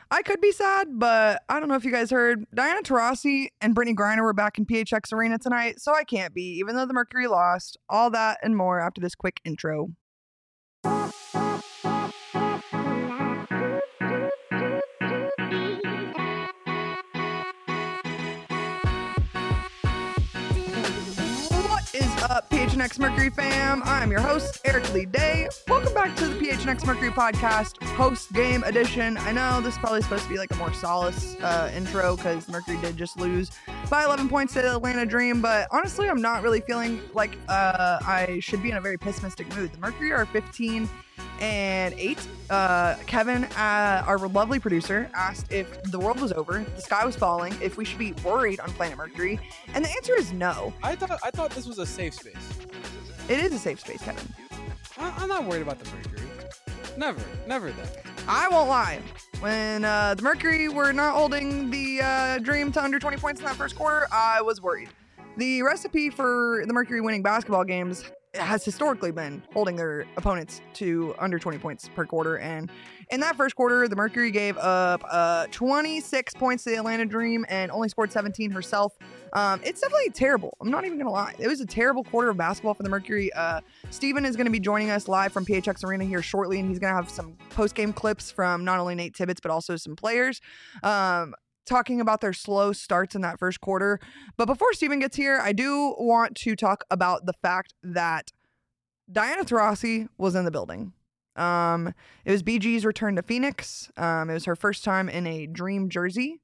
I could be sad, but I don't know if you guys heard. Diana Taurasi and Brittany Griner were back in PHX Arena tonight, so I can't be, even though the Mercury lost. All that and more after this quick intro. What is up, PHNX Mercury fam? I'm your host, Eric Lee Day. Welcome back to the PHNX Mercury podcast, post-game edition. I know this is probably supposed to be like a more solace intro because Mercury did just lose by 11 points to the Atlanta Dream, but honestly, I'm not really feeling like I should be in a very pessimistic mood. The Mercury are 15-8. Kevin, our lovely producer, asked if the world was over, the sky was falling, if we should be worried on planet Mercury, and the answer is no. I thought this was a safe space. It is a safe space, Kevin. I'm not worried about the Mercury. Never that. I won't lie. When the Mercury were not holding the Dream to under 20 points in that first quarter, I was worried. The recipe for the Mercury winning basketball games has historically been holding their opponents to under 20 points per quarter. And in that first quarter, the Mercury gave up 26 points to the Atlanta Dream and only scored 17 herself. It's definitely terrible. I'm not even going to lie. It was a terrible quarter of basketball for the Mercury. Steven is going to be joining us live from PHX Arena here shortly, and he's going to have some post-game clips from not only Nate Tibbetts, but also some players. Talking about their slow starts in that first quarter. But before Steven gets here, I do want to talk about the fact that Diana Taurasi was in the building. It was BG's return to Phoenix. It was her first time in a Dream jersey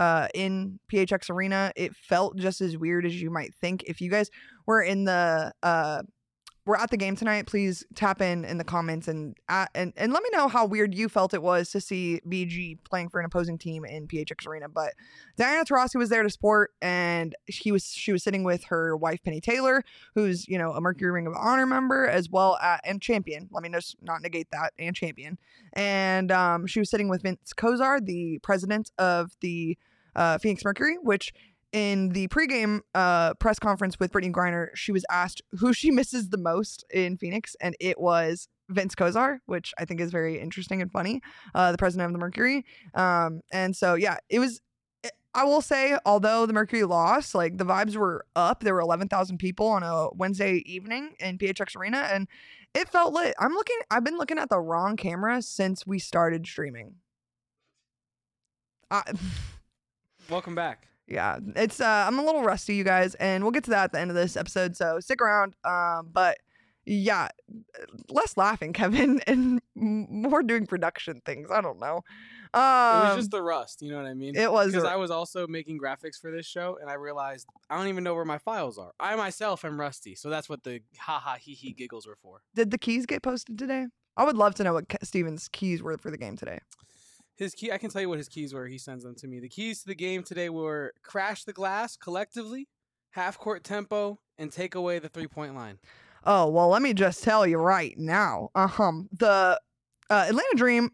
in PHX Arena. It felt just as weird as you might think. If you guys were in the we're at the game tonight, please tap in the comments and let me know how weird you felt it was to see BG playing for an opposing team in PHX Arena. But Diana Taurasi was there to support, and she was sitting with her wife Penny Taylor, who's a Mercury Ring of Honor member as well and champion. Let me just not negate that, and champion. And she was sitting with Vince Kozar, the president of the Phoenix Mercury, which in the pregame press conference with Brittany Griner, she was asked who she misses the most in Phoenix, and it was Vince Kozar, which I think is very interesting and funny, the president of the Mercury. And so, yeah, it was, I will say, although the Mercury lost, like the vibes were up. There were 11,000 people on a Wednesday evening in PHX Arena, and it felt lit. I've been looking at the wrong camera since we started streaming. Welcome back. Yeah, it's I'm a little rusty, you guys, and we'll get to that at the end of this episode, so stick around. But yeah, less laughing, Kevin, and more doing production things. I don't know. It was just the rust, you know what I mean? It was, because I was also making graphics for this show, and I realized I don't even know where my files are. I myself am rusty, so that's what the ha hee hee giggles were for. Did the keys get posted today? I would love to know what Steven's keys were for the game today. His key, I can tell you what his keys were. He sends them to me. The keys to the game today were crash the glass collectively, half court tempo, and take away the 3-point line. Oh, well, let me just tell you right now. The Atlanta Dream,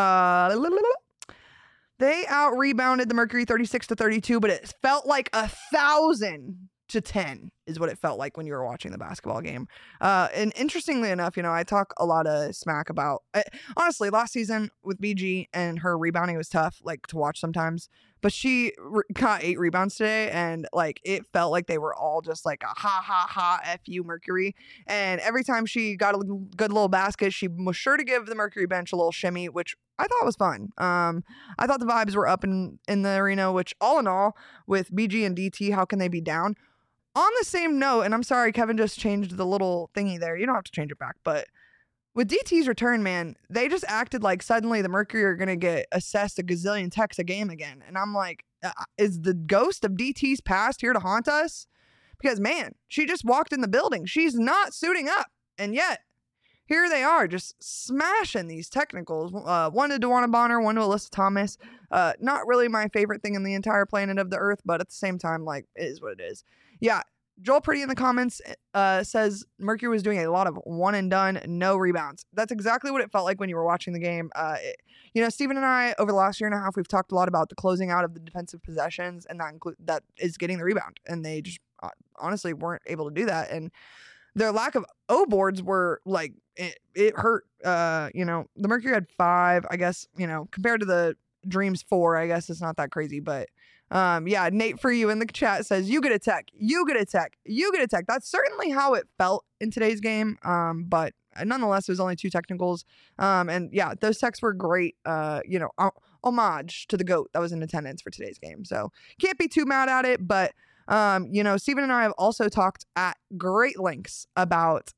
they out-rebounded the Mercury 36-32, but it felt like 1,000-10 is what it felt like when you were watching the basketball game. And interestingly enough, I talk a lot of smack about, honestly, last season with BG and her rebounding was tough, like to watch sometimes, but she got 8 rebounds today, and like it felt like they were all just like a ha F you Mercury. And every time she got a good little basket, she was sure to give the Mercury bench a little shimmy, which I thought was fun. I thought the vibes were up in the arena, which all in all, with BG and DT, how can they be down? On the same note, and I'm sorry, Kevin just changed the little thingy there. You don't have to change it back, but with DT's return, man, they just acted like suddenly the Mercury are going to get assessed a gazillion techs a game again. And I'm like, is the ghost of DT's past here to haunt us? Because, man, she just walked in the building. She's not suiting up. And yet, here they are just smashing these technicals. One to DeWanna Bonner, one to Alyssa Thomas. Not really my favorite thing in the entire planet of the earth, but at the same time, like, it is what it is. Yeah, Joel Pretty in the comments says Mercury was doing a lot of one and done, no rebounds. That's exactly what it felt like when you were watching the game. Steven and I, over the last year and a half, we've talked a lot about the closing out of the defensive possessions, and that is getting the rebound. And they just honestly weren't able to do that. And their lack of O boards were like, it hurt. The Mercury had 5, I guess, compared to the Dream's 4. I guess it's not that crazy, but yeah, Nate for you in the chat says, you get a tech, you get a tech, you get a tech. That's certainly how it felt in today's game. But nonetheless, it was only 2 technicals. And yeah, those techs were great, homage to the GOAT that was in attendance for today's game. So can't be too mad at it. But, Steven and I have also talked at great lengths about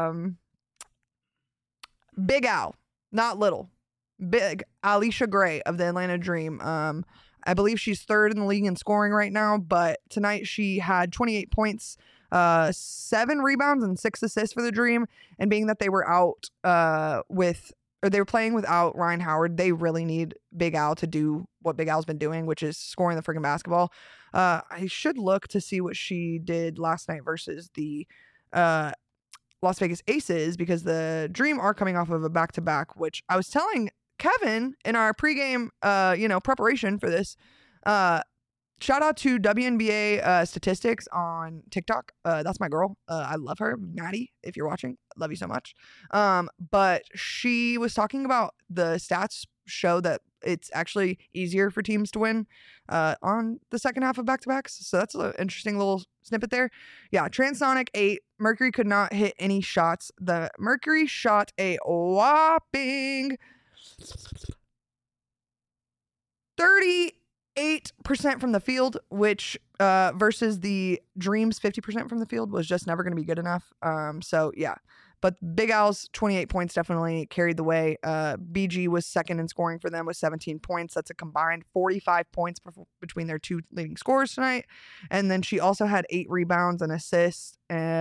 Big Al, not little, big Alicia Gray of the Atlanta Dream. I believe she's 3rd in the league in scoring right now, but tonight she had 28 points, 7 rebounds and 6 assists for the Dream. And being that they were they were playing without Ryan Howard, they really need Big Al to do what Big Al's been doing, which is scoring the freaking basketball. I should look to see what she did last night versus the Las Vegas Aces, because the Dream are coming off of a back-to-back, which I was telling Kevin in our pregame, preparation for this. Shout out to WNBA statistics on TikTok. That's my girl. I love her, Maddie. If you're watching, love you so much. But she was talking about the stats show that it's actually easier for teams to win on the second half of back-to-backs. So that's an interesting little snippet there. Yeah, Transonic 8. Mercury could not hit any shots. The Mercury shot a whopping 38% from the field, which versus the Dream's 50% from the field was just never going to be good enough. So yeah, but Big Al's 28 points definitely carried the way. BG was 2nd in scoring for them with 17 points. That's a combined 45 points between their 2 leading scorers tonight. And then she also had 8 rebounds and assists.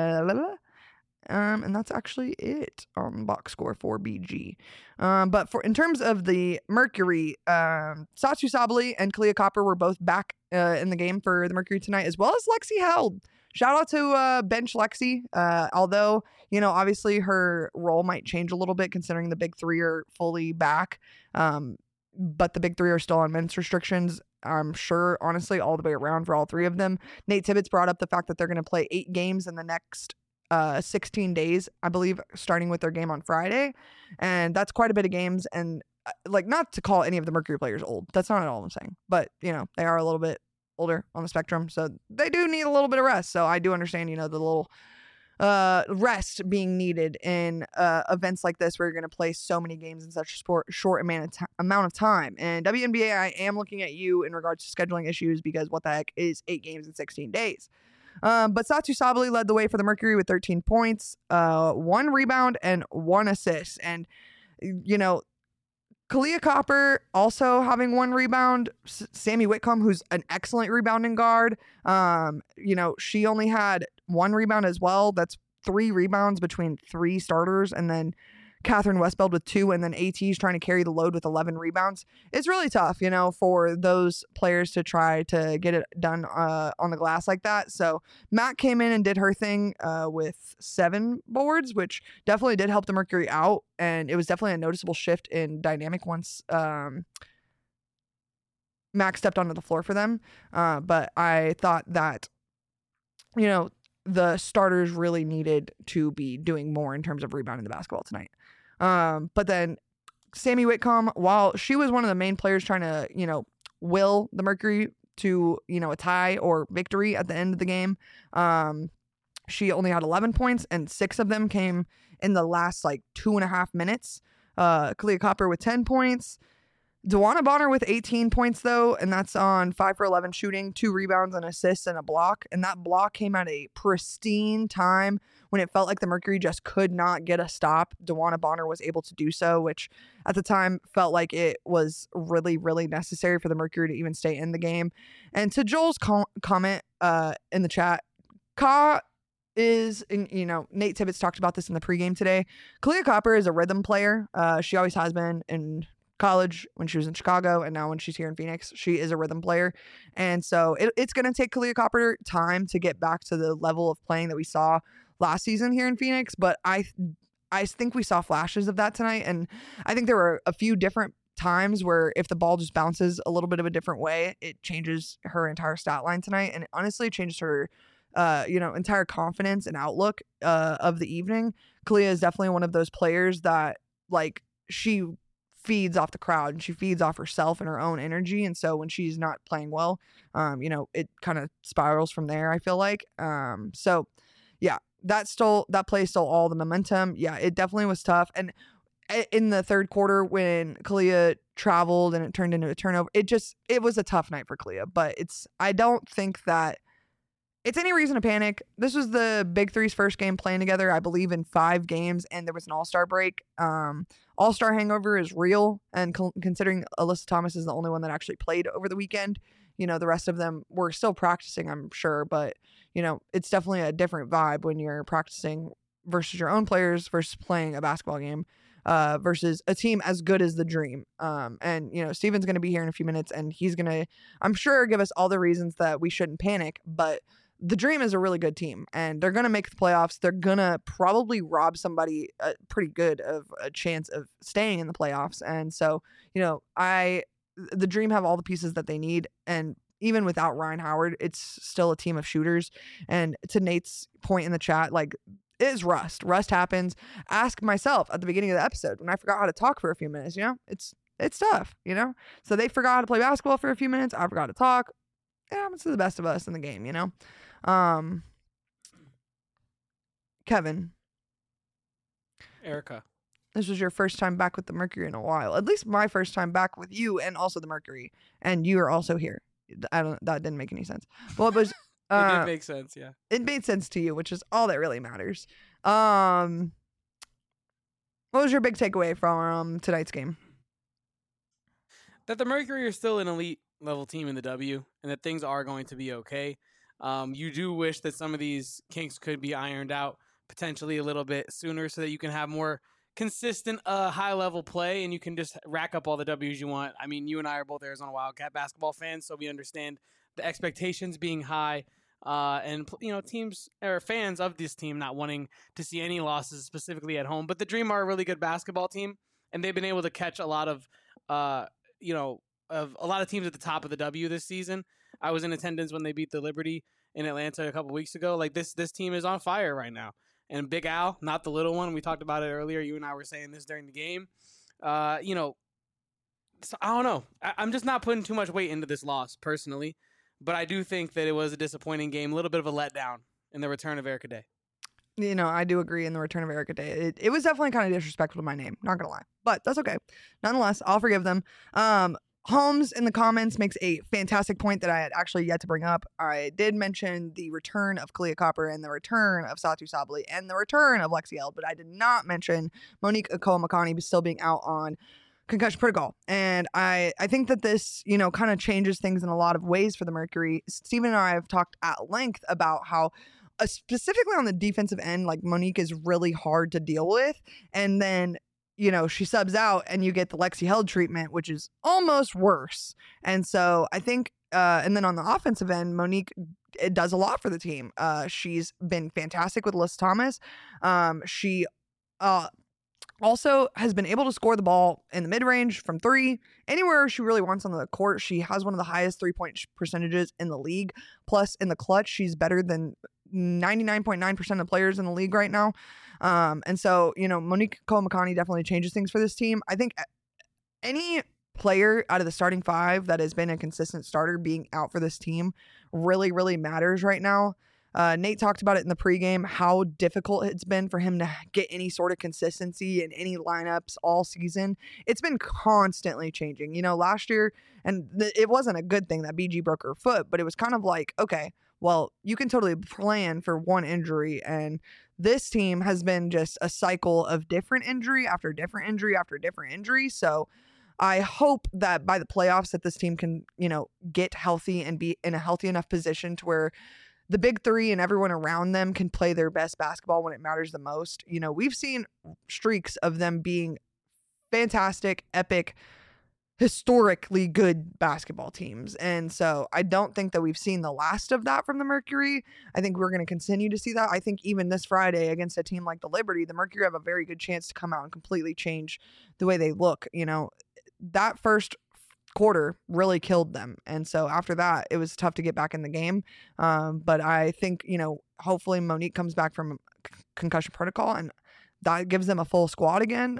And that's actually it on box score for BG. But in terms of the Mercury, Satsu Sabali and Kalia Copper were both back in the game for the Mercury tonight, as well as Lexi Held. Shout out to bench Lexi. Although, obviously her role might change a little bit considering the big 3 are fully back. But the big 3 are still on minutes restrictions. I'm sure, honestly, all the way around for all 3 of them. Nate Tibbetts brought up the fact that they're going to play 8 games in the next 16 days, I believe, starting with their game on Friday. And that's quite a bit of games. And not to call any of the Mercury players old. That's not at all I'm saying. But, they are a little bit older on the spectrum. So they do need a little bit of rest. So I do understand, the little rest being needed in events like this where you're going to play so many games in such a short amount of time. And WNBA, I am looking at you in regards to scheduling issues, because what the heck is 8 games in 16 days? But Satsu Sabali led the way for the Mercury with 13 points, 1 rebound, and 1 assist. And, Kalia Copper also having 1 rebound. Sammy Whitcomb, who's an excellent rebounding guard, she only had 1 rebound as well. That's 3 rebounds between 3 starters. And then Catherine Westbeld with 2, and then AT's trying to carry the load with 11 rebounds. It's really tough, for those players to try to get it done on the glass like that. So Matt came in and did her thing with 7 boards, which definitely did help the Mercury out. And it was definitely a noticeable shift in dynamic once Max stepped onto the floor for them. But I thought that, the starters really needed to be doing more in terms of rebounding the basketball tonight. But then Sammy Whitcomb, while she was one of the main players trying to, will the Mercury to, a tie or victory at the end of the game, she only had 11 points, and 6 of them came in the last 2.5 minutes. Kalia Copper with 10 points. Dewana Bonner with 18 points, though, and that's on 5 for 11 shooting, 2 rebounds, and assists, and a block. And that block came at a pristine time when it felt like the Mercury just could not get a stop. Dewana Bonner was able to do so, which at the time felt like it was really, really necessary for the Mercury to even stay in the game. And to Joel's comment in the chat, Ka is, Nate Tibbetts talked about this in the pregame today. Kalia Copper is a rhythm player. She always has been in college, when she was in Chicago, and now when she's here in Phoenix, she is a rhythm player. And so it's going to take Kalia Copper time to get back to the level of playing that we saw last season here in Phoenix. But I think we saw flashes of that tonight. And I think there were a few different times where if the ball just bounces a little bit of a different way, it changes her entire stat line tonight. And it honestly changes her, entire confidence and outlook of the evening. Kalia is definitely one of those players that, she feeds off the crowd and she feeds off herself and her own energy. And so when she's not playing well, it kind of spirals from there, I feel like. So yeah, that play stole all the momentum. Yeah, it definitely was tough. And in the third quarter when Kalia traveled and it turned into a turnover, it was a tough night for Kalia. But I don't think that it's any reason to panic. This was the Big Three's first game playing together, I believe, in 5 games, and there was an All-Star break. All-Star hangover is real, and considering Alyssa Thomas is the only one that actually played over the weekend, the rest of them were still practicing, I'm sure, but, it's definitely a different vibe when you're practicing versus your own players versus playing a basketball game. Versus a team as good as the Dream. And Steven's going to be here in a few minutes, and he's going to, I'm sure, give us all the reasons that we shouldn't panic. But the Dream is a really good team, and they're going to make the playoffs. They're going to probably rob somebody pretty good of a chance of staying in the playoffs. And so, the Dream have all the pieces that they need, and even without Ryan Howard, it's still a team of shooters. And to Nate's point in the chat, like, it is rust. Rust happens. Ask myself at the beginning of the episode when I forgot how to talk for a few minutes, it's tough, So they forgot how to play basketball for a few minutes. I forgot to talk. It happens to the best of us in the game, Kevin. Erica. This was your first time back with the Mercury in a while. At least my first time back with you and also the Mercury. And you are also here. That didn't make any sense. Well, it was... It did make sense, yeah. It made sense to you, which is all that really matters. What was your big takeaway from tonight's game? That the Mercury are still an elite level team in the W, and that things are going to be okay. You do wish that some of these kinks could be ironed out potentially a little bit sooner so that you can have more consistent high-level play and you can just rack up all the W's you want. I mean, you and I are both Arizona Wildcat basketball fans, so we understand the expectations being high. And teams or fans of this team not wanting to see any losses specifically at home, but the Dream are a really good basketball team, and they've been able to catch a lot of a lot of teams at the top of the W this season. I was in attendance when they beat the Liberty in Atlanta a couple weeks ago. Like this team is on fire right now, and Big Al, not the little one. We talked about it earlier. You and I were saying this during the game. So I don't know. I'm just not putting too much weight into this loss personally. But I do think that it was a disappointing game, a little bit of a letdown in the return of Erica Day. I do agree in the return of Erica Day. It was definitely kind of disrespectful to my name, not going to lie. But that's okay. Nonetheless, I'll forgive them. Holmes in the comments makes a fantastic point that I had actually yet to bring up. I did mention the return of Kalia Copper and the return of Satu Sabali and the return of Lexi Eld, but I did not mention Monique Akomakani still being out on concussion protocol. And I think that this, kind of changes things in a lot of ways for the Mercury. Steven and I have talked at length about how specifically on the defensive end, like Monique is really hard to deal with. And then, she subs out and you get the Lexi Held treatment, which is almost worse. And so I think, and then on the offensive end, Monique, it does a lot for the team. She's been fantastic with Alyssa Thomas. She, also has been able to score the ball in the mid-range from 3 anywhere she really wants on the court. She has one of the highest 3-point percentages in the league. Plus, in the clutch, she's better than 99.9% of players in the league right now. And so, Monique Komakani definitely changes things for this team. I think any player out of the starting 5 that has been a consistent starter being out for this team really, really matters right now. Nate talked about it in the pregame, how difficult it's been for him to get any sort of consistency in any lineups all season. It's been constantly changing. Last year, and it wasn't a good thing that BG broke her foot, but it was kind of like, okay, well, you can totally plan for one injury. And this team has been just a cycle of different injury after different injury after different injury. So I hope that by the playoffs that this team can, get healthy and be in a healthy enough position to where the Big Three and everyone around them can play their best basketball when it matters the most. We've seen streaks of them being fantastic, epic, historically good basketball teams. And so I don't think that we've seen the last of that from the Mercury. I think we're going to continue to see that. I think even this Friday against a team like the Liberty, the Mercury have a very good chance to come out and completely change the way they look. That first quarter really killed them, and so after that it was tough to get back in the game, but I think hopefully Monique comes back from concussion protocol and that gives them a full squad again. I'd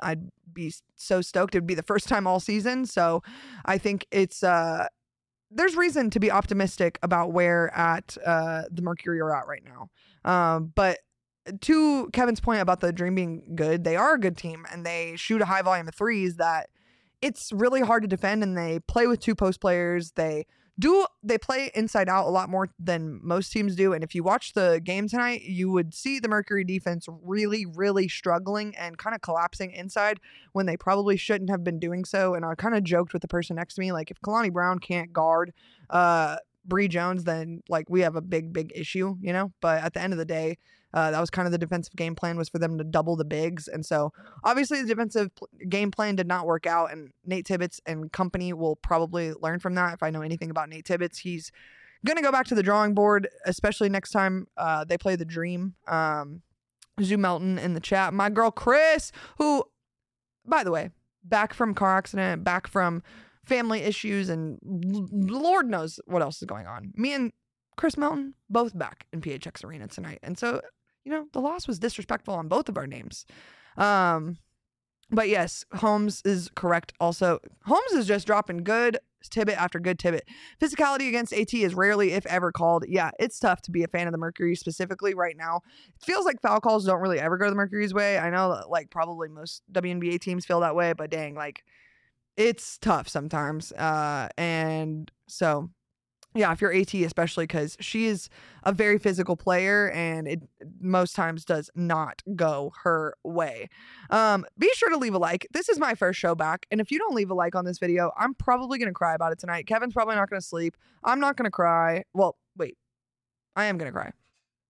be so stoked. It'd be the first time all season. So I think it's there's reason to be optimistic about where the Mercury are at right now. But to Kevin's point about the Dream being good, they are a good team and they shoot a high volume of threes that it's really hard to defend, and they play with 2 post players. They play inside out a lot more than most teams do. And if you watch the game tonight, you would see the Mercury defense really, really struggling and kind of collapsing inside when they probably shouldn't have been doing so. And I kind of joked with the person next to me, like, if Kalani Brown can't guard Bree Jones, then like we have a big issue, you know? But at the end of the day, that was kind of the defensive game plan, was for them to double the bigs. And so obviously the defensive game plan did not work out, and Nate Tibbetts and company will probably learn from that. If I know anything about Nate Tibbetts, he's going to go back to the drawing board, especially next time they play the Dream. Zoo Melton in the chat. My girl Chris, who, by the way, back from car accident, back from family issues, and Lord knows what else is going on. Me and Chris Melton both back in PHX Arena tonight. And so, you know, the loss was disrespectful on both of our names. But yes, Holmes is correct also. Holmes is just dropping good Tibbet after good Tibbet. Physicality against AT is rarely, if ever, called. Yeah, it's tough to be a fan of the Mercury specifically right now. It feels like foul calls don't really ever go the Mercury's way. I know that, like, probably most WNBA teams feel that way, but dang, like, it's tough sometimes. And so, yeah, if you're AT, especially, because she is a very physical player and it most times does not go her way. Be sure to leave a like. This is my first show back, and if you don't leave a like on this video, I'm probably going to cry about it tonight. Kevin's probably not going to sleep. I'm not going to cry. Well, wait. I am going to cry.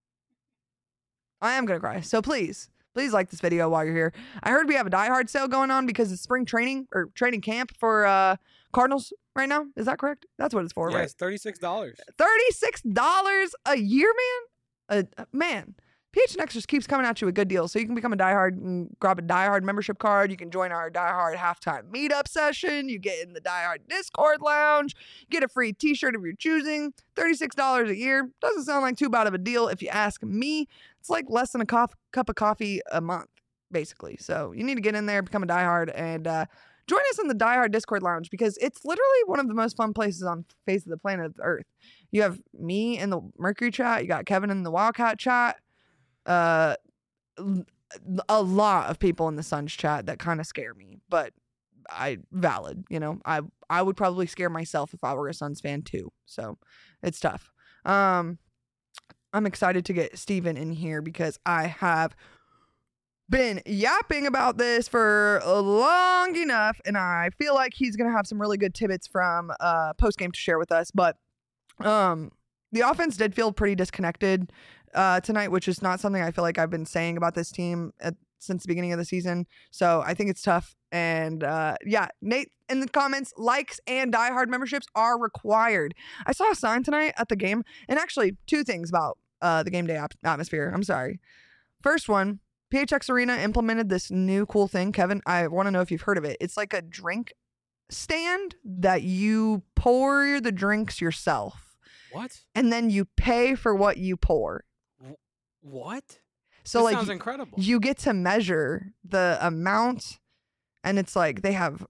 I am going to cry. So please like this video while you're here. I heard we have a Die Hard sale going on because it's spring training or training camp for Cardinals right now. Is that correct? That's what it's for, right? It's $36. $36 a year, man. Man, PHNX just keeps coming at you with good deals. So you can become a Die Hard and grab a Die Hard membership card. You can join our Die Hard halftime meetup session. You get in the Die Hard Discord lounge. Get a free t-shirt of your choosing. $36 a year. Doesn't sound like too bad of a deal if you ask me. It's like less than a cup of coffee a month, basically. So you need to get in there, become a Die Hard, and join us in the Die Hard Discord lounge, because it's literally one of the most fun places on the face of the planet Earth. You have me in the Mercury chat. You got Kevin in the Wildcat chat. A lot of people in the Suns chat that kind of scare me, but valid. You know, I would probably scare myself if I were a Suns fan too. So it's tough. I'm excited to get Steven in here because I have been yapping about this for long enough, and I feel like he's going to have some really good tidbits from post-game to share with us. But the offense did feel pretty disconnected tonight, which is not something I feel like I've been saying about this team since the beginning of the season. So I think it's tough. And yeah, Nate in the comments, likes and Die Hard memberships are required. I saw a sign tonight at the game, and actually 2 things about the game day atmosphere. I'm sorry. First one, PHX Arena implemented this new cool thing. Kevin, I want to know if you've heard of it. It's like a drink stand that you pour the drinks yourself. What? And then you pay for what you pour. What? So This like sounds incredible. You get to measure the amount, and it's like they have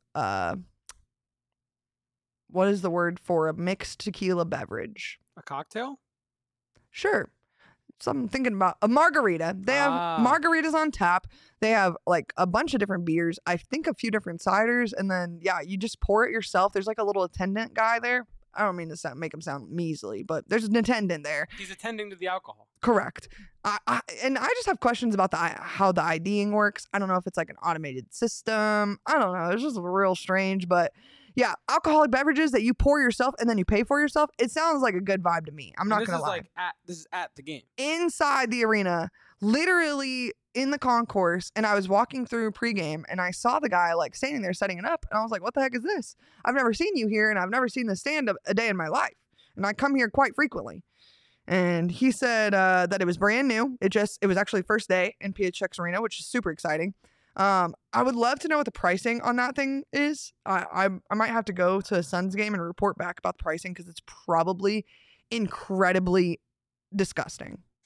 what is the word for a mixed tequila beverage? A cocktail? Sure. So I'm thinking about a margarita. They have margaritas on tap. They have like a bunch of different beers. I think a few different ciders. And then, yeah, you just pour it yourself. There's like a little attendant guy there. I don't mean to make him sound measly, but there's an attendant there. He's attending to the alcohol. Correct. I just have questions about how the IDing works. I don't know if it's like an automated system. I don't know. It's just real strange. But yeah, alcoholic beverages that you pour yourself and then you pay for yourself. It sounds like a good vibe to me. I'm not going to lie. This is at the game. Inside the arena, literally in the concourse, and I was walking through pregame and I saw the guy like standing there setting it up, and I was like, what the heck is this? I've never seen you here, and I've never seen this stand a day in my life, and I come here quite frequently. And he said that it was brand new. It was actually first day in PHX Arena, which is super exciting. I would love to know what the pricing on that thing is. I might have to go to a Suns game and report back about the pricing, because it's probably incredibly disgusting.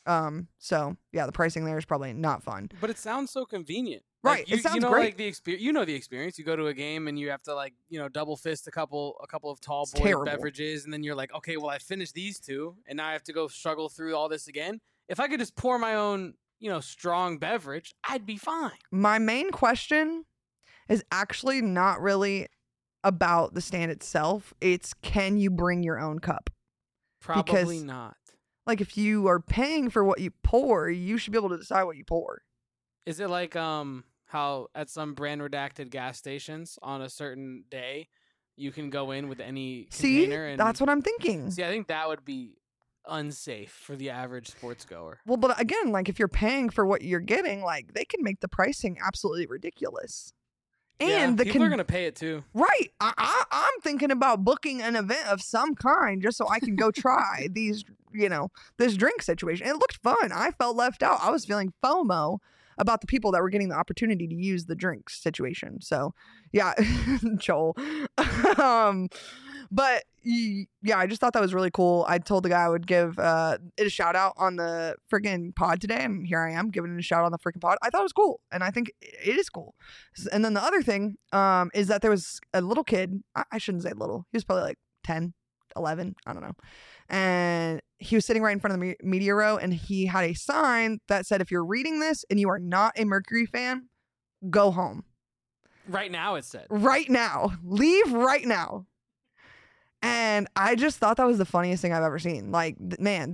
So yeah, the pricing there is probably not fun. But it sounds so convenient. Right. Like, you, it sounds you know, great. like the experience. You know the experience. You go to a game and you have to double fist a couple of tall It's boy terrible. beverages, and then you're like, okay, well I finished these two, and now I have to go struggle through all this again. If I could just pour my own, strong beverage, I'd be fine. My main question is actually not really about the stand itself. It's, can you bring your own cup? Probably not. Like, if you are paying for what you pour, you should be able to decide what you pour. Is it like how at some brand redacted gas stations on a certain day you can go in with any container? And That's what I'm thinking. See, I think that would be unsafe for the average sports goer. Well, but again, like, if you're paying for what you're getting, like, they can make the pricing absolutely ridiculous. And people are gonna pay it too. Right. I'm thinking about booking an event of some kind just so I can go try these, this drink situation. It looked fun. I felt left out. I was feeling FOMO about the people that were getting the opportunity to use the drinks situation. So yeah, Joel. But yeah, I just thought that was really cool. I told the guy I would give it a shout out on the freaking pod today, and here I am giving it a shout out on the freaking pod. I thought it was cool, and I think it is cool. And then the other thing is that there was a little kid. I shouldn't say little. He was probably like 10, 11. I don't know. And he was sitting right in front of the media row, and he had a sign that said, if you're reading this and you are not a Mercury fan, go home. Right now, it said. Right now. Leave right now. And I just thought that was the funniest thing I've ever seen. Like, man,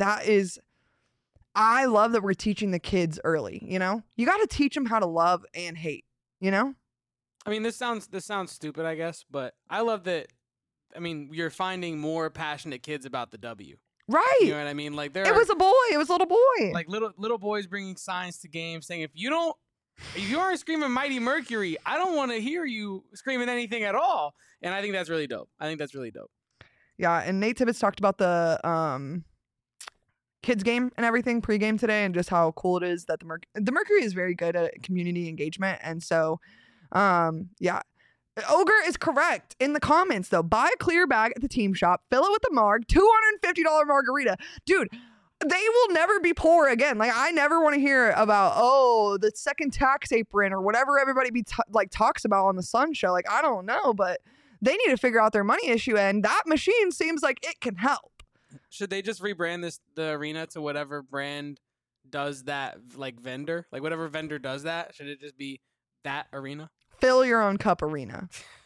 I love that we're teaching the kids early, You got to teach them how to love and hate, I mean, this sounds stupid, I guess, but I love that. I mean, you're finding more passionate kids about the W. Right. You know what I mean? Like, it was a boy. It was a little boy. Like little boys bringing signs to games saying, if you aren't screaming Mighty Mercury, I don't want to hear you screaming anything at all. And I think that's really dope. Yeah, and Nate Tibbetts talked about the kids game and everything pregame today, and just how cool it is that the Mercury is very good at community engagement. And so, yeah. Ogre is correct in the comments, though. Buy a clear bag at the team shop, fill it with the marg, $250 margarita. Dude, they will never be poor again. Like, I never want to hear about, the second tax apron or whatever everybody talks about on the Sun Show. Like, I don't know, but they need to figure out their money issue, and that machine seems like it can help. Should they just rebrand the arena to whatever brand does that, like, vendor? Like, whatever vendor does that, should it just be that arena? Fill your own cup arena.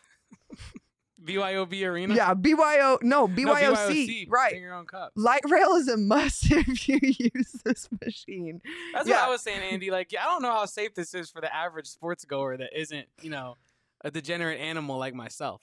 BYOB arena? Yeah, BYOC. No, BYOC. Right. Bring your own cup. Light rail is a must if you use this machine. That's what I was saying, Andy. Like, I don't know how safe this is for the average sports goer that isn't, a degenerate animal like myself,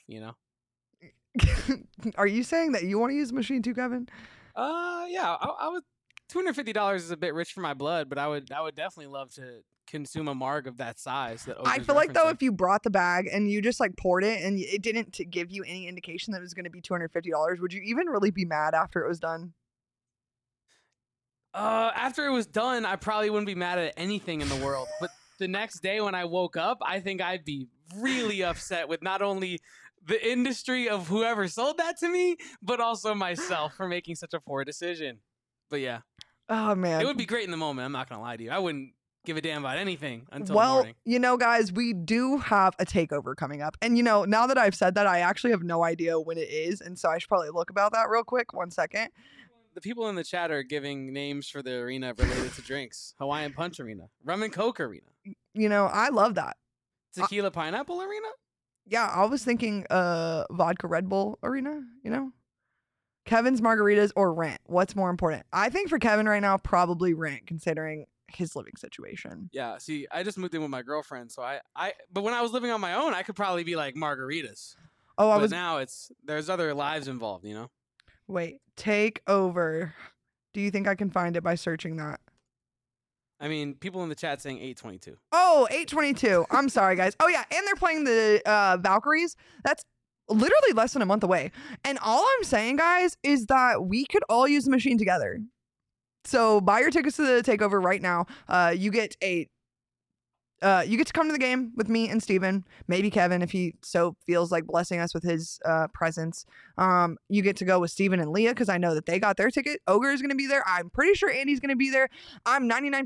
Are you saying that you want to use the machine too, Kevin? Yeah. I would. $250 is a bit rich for my blood, but I would definitely love to consume a marg of that size. I feel like, though, if you brought the bag and you just poured it and it didn't give you any indication that it was going to be $250, would you even really be mad after it was done? After it was done, I probably wouldn't be mad at anything in the world. But the next day when I woke up, I think I'd be really upset with not only the industry of whoever sold that to me, but also myself for making such a poor decision. But yeah. Oh, man. It would be great in the moment. I'm not going to lie to you. I wouldn't give a damn about anything until the morning. Guys, we do have a takeover coming up. And, now that I've said that, I actually have no idea when it is. And so I should probably look about that real quick. 1 second. The people in the chat are giving names for the arena related to drinks. Hawaiian Punch Arena. Rum and Coke Arena. I love that. Tequila Pineapple Arena? Yeah, I was thinking vodka Red Bull Arena, Kevin's margaritas or rent? What's more important? I think for Kevin right now, probably rent, considering his living situation. Yeah, see, I just moved in with my girlfriend, so but when I was living on my own, I could probably be like margaritas. Now there's other lives involved, Wait, take over. Do you think I can find it by searching that? I mean, people in the chat saying 822. Oh, 822. I'm sorry, guys. Oh, yeah, and they're playing the Valkyries. That's literally less than a month away. And all I'm saying, guys, is that we could all use the machine together. So buy your tickets to the takeover right now. You get a you get to come to the game with me and Steven, maybe Kevin if he so feels like blessing us with his presence. You get to go with Steven and Leah because I know that they got their ticket. Ogre is going to be there. I'm pretty sure Andy's going to be there. I'm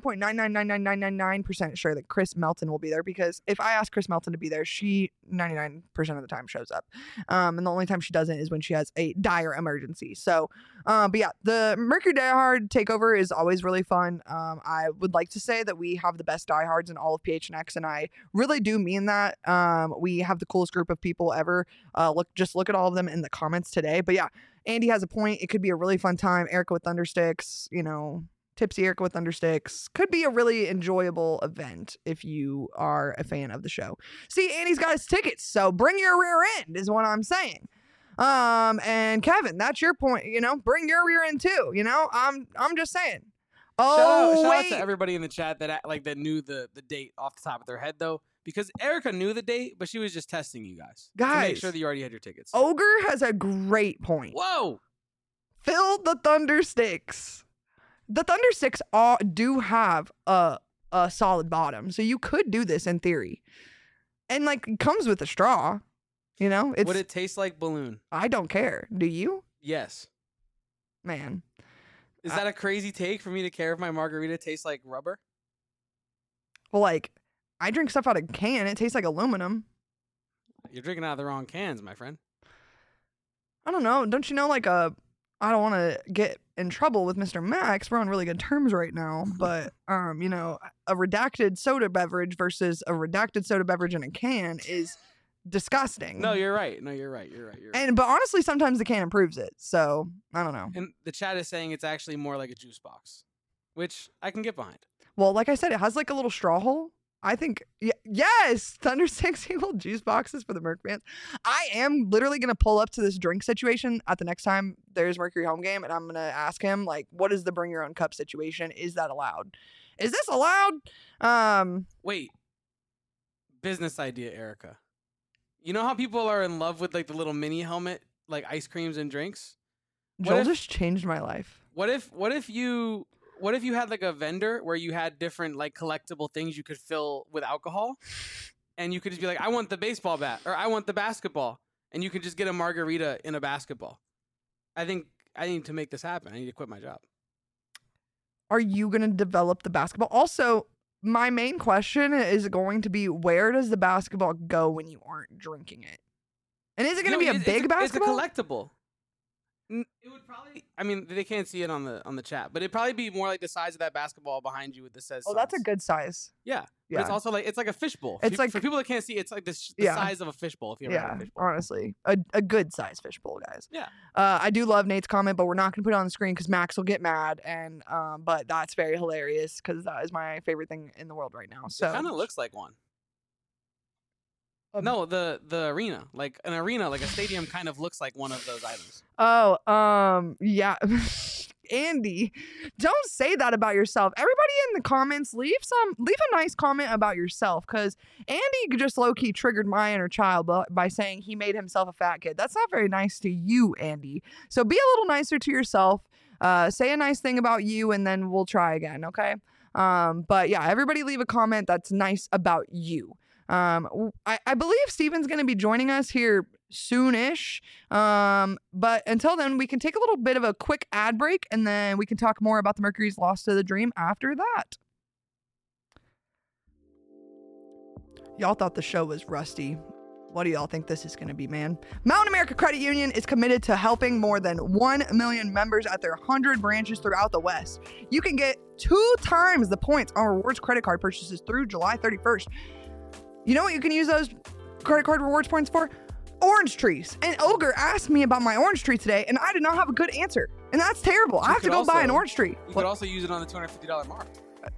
99.9999999% sure that Chris Melton will be there because if I ask Chris Melton to be there, she 99% of the time shows up. And the only time she doesn't is when she has a dire emergency. So, but yeah, the Mercury Die Hard takeover is always really fun. I would like to say that we have the best diehards in all of PHNX, and I really do mean that. We have the coolest group of people ever. Look at all of them in the comments today. But yeah, Andy has a point. It could be a really fun time. Erica with Thundersticks, Tipsy Erica with Thundersticks could be a really enjoyable event if you are a fan of the show. See, Andy's got his tickets, so bring your rear end is what I'm saying. And Kevin, that's your point. Bring your rear end too. I'm just saying. Shout out to everybody in the chat that knew the date off the top of their head though, because Erica knew the date, but she was just testing you guys to make sure that you already had your tickets. Ogre has a great point. Whoa! Fill the Thundersticks. The Thundersticks do have a solid bottom, so you could do this in theory, and it comes with a straw. Would it taste like balloon? I don't care. Do you? Yes. Man. Is that a crazy take for me to care if my margarita tastes like rubber? Well, I drink stuff out of can. It tastes like aluminum. You're drinking out of the wrong cans, my friend. I don't know. Don't you know, I don't want to get in trouble with Mr. Max. We're on really good terms right now. But, a redacted soda beverage versus a redacted soda beverage in a can is disgusting. No, you're right. You're right. But honestly, sometimes the can improves it. So I don't know. And the chat is saying it's actually more like a juice box, which I can get behind. Well, like I said, it has a little straw hole. I think yes, Thundersticks equal juice boxes for the Merc fans. I am literally gonna pull up to this drink situation at the next time there's Mercury home game, and I'm gonna ask him what is the bring your own cup situation? Is that allowed? Is this allowed? Wait. Business idea, Erica. You know how people are in love with the little mini helmet, ice creams and drinks? Joel just changed my life. What if you had a vendor where you had different collectible things you could fill with alcohol, and you could just be I want the baseball bat or I want the basketball, and you could just get a margarita in a basketball. I think I need to make this happen. I need to quit my job. Are you going to develop the basketball? Also, my main question is going to be, where does the basketball go when you aren't drinking it? And is it going to be a big basketball? It's a collectible. It would probably. I mean, they can't see it on the chat, but it'd probably be more like the size of that basketball behind you with the says. Oh, that's a good size. Yeah. But it's also it's like a fishbowl. It's for people that can't see, it's the size of a fishbowl. If you ever had a fishbowl. Honestly, a good size fishbowl, guys. Yeah. I do love Nate's comment, but we're not gonna put it on the screen because Max will get mad, and but that's very hilarious because that is my favorite thing in the world right now. So it kind of looks like one. No, the arena, an arena, a stadium, kind of looks like one of those items. Oh, yeah. Andy, don't say that about yourself. Everybody in the comments, leave a nice comment about yourself, because Andy just low-key triggered my inner child by saying he made himself a fat kid. That's not very nice to you, Andy. So be a little nicer to yourself. Say a nice thing about you, and then we'll try again, okay? But yeah, everybody leave a comment that's nice about you. I believe Steven's going to be joining us here soonish. But until then, we can take a little bit of a quick ad break, and then we can talk more about the Mercury's loss to the Dream after that. Y'all thought the show was rusty. What do y'all think this is going to be, man? Mountain America Credit Union is committed to helping more than 1 million members at their 100 branches throughout the West. You can get 2 times the points on rewards credit card purchases through July 31st. You know what you can use those credit card rewards points for? Orange trees. And Ogre asked me about my orange tree today, and I did not have a good answer. And that's terrible. I have to go buy an orange tree. You could also use it on the $250 mark.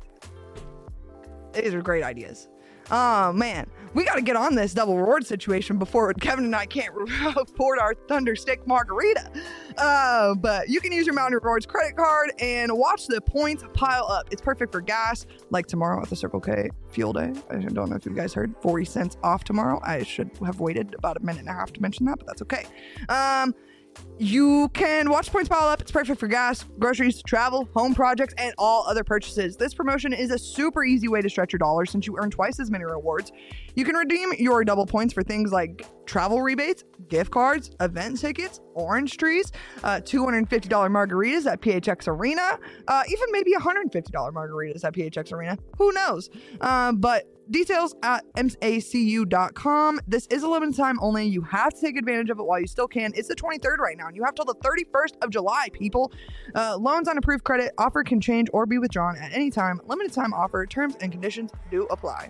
These are great ideas. Oh, man. We got to get on this double reward situation before Kevin and I can't afford our Thunderstick margarita. But you can use your Mountain Rewards credit card and watch the points pile up. It's perfect for gas, like tomorrow at the Circle K Fuel Day. I don't know if you guys heard. 40 cents off tomorrow. I should have waited about a minute and a half to mention that, but that's okay. You can watch points pile up. It's perfect for gas, groceries, travel, home projects, and all other purchases. This promotion is a super easy way to stretch your dollars since you earn twice as many rewards. You can redeem your double points for things like travel rebates, gift cards, event tickets, orange trees, $250 margaritas at PHX Arena, even maybe $150 margaritas at PHX Arena. Who knows? But details at macu.com. This is a limited time only. You have to take advantage of it while you still can. It's the 23rd right now, and you have till the 31st of July, people. Loans on approved credit. Offer can change or be withdrawn at any time. Limited time offer. Terms and conditions do apply.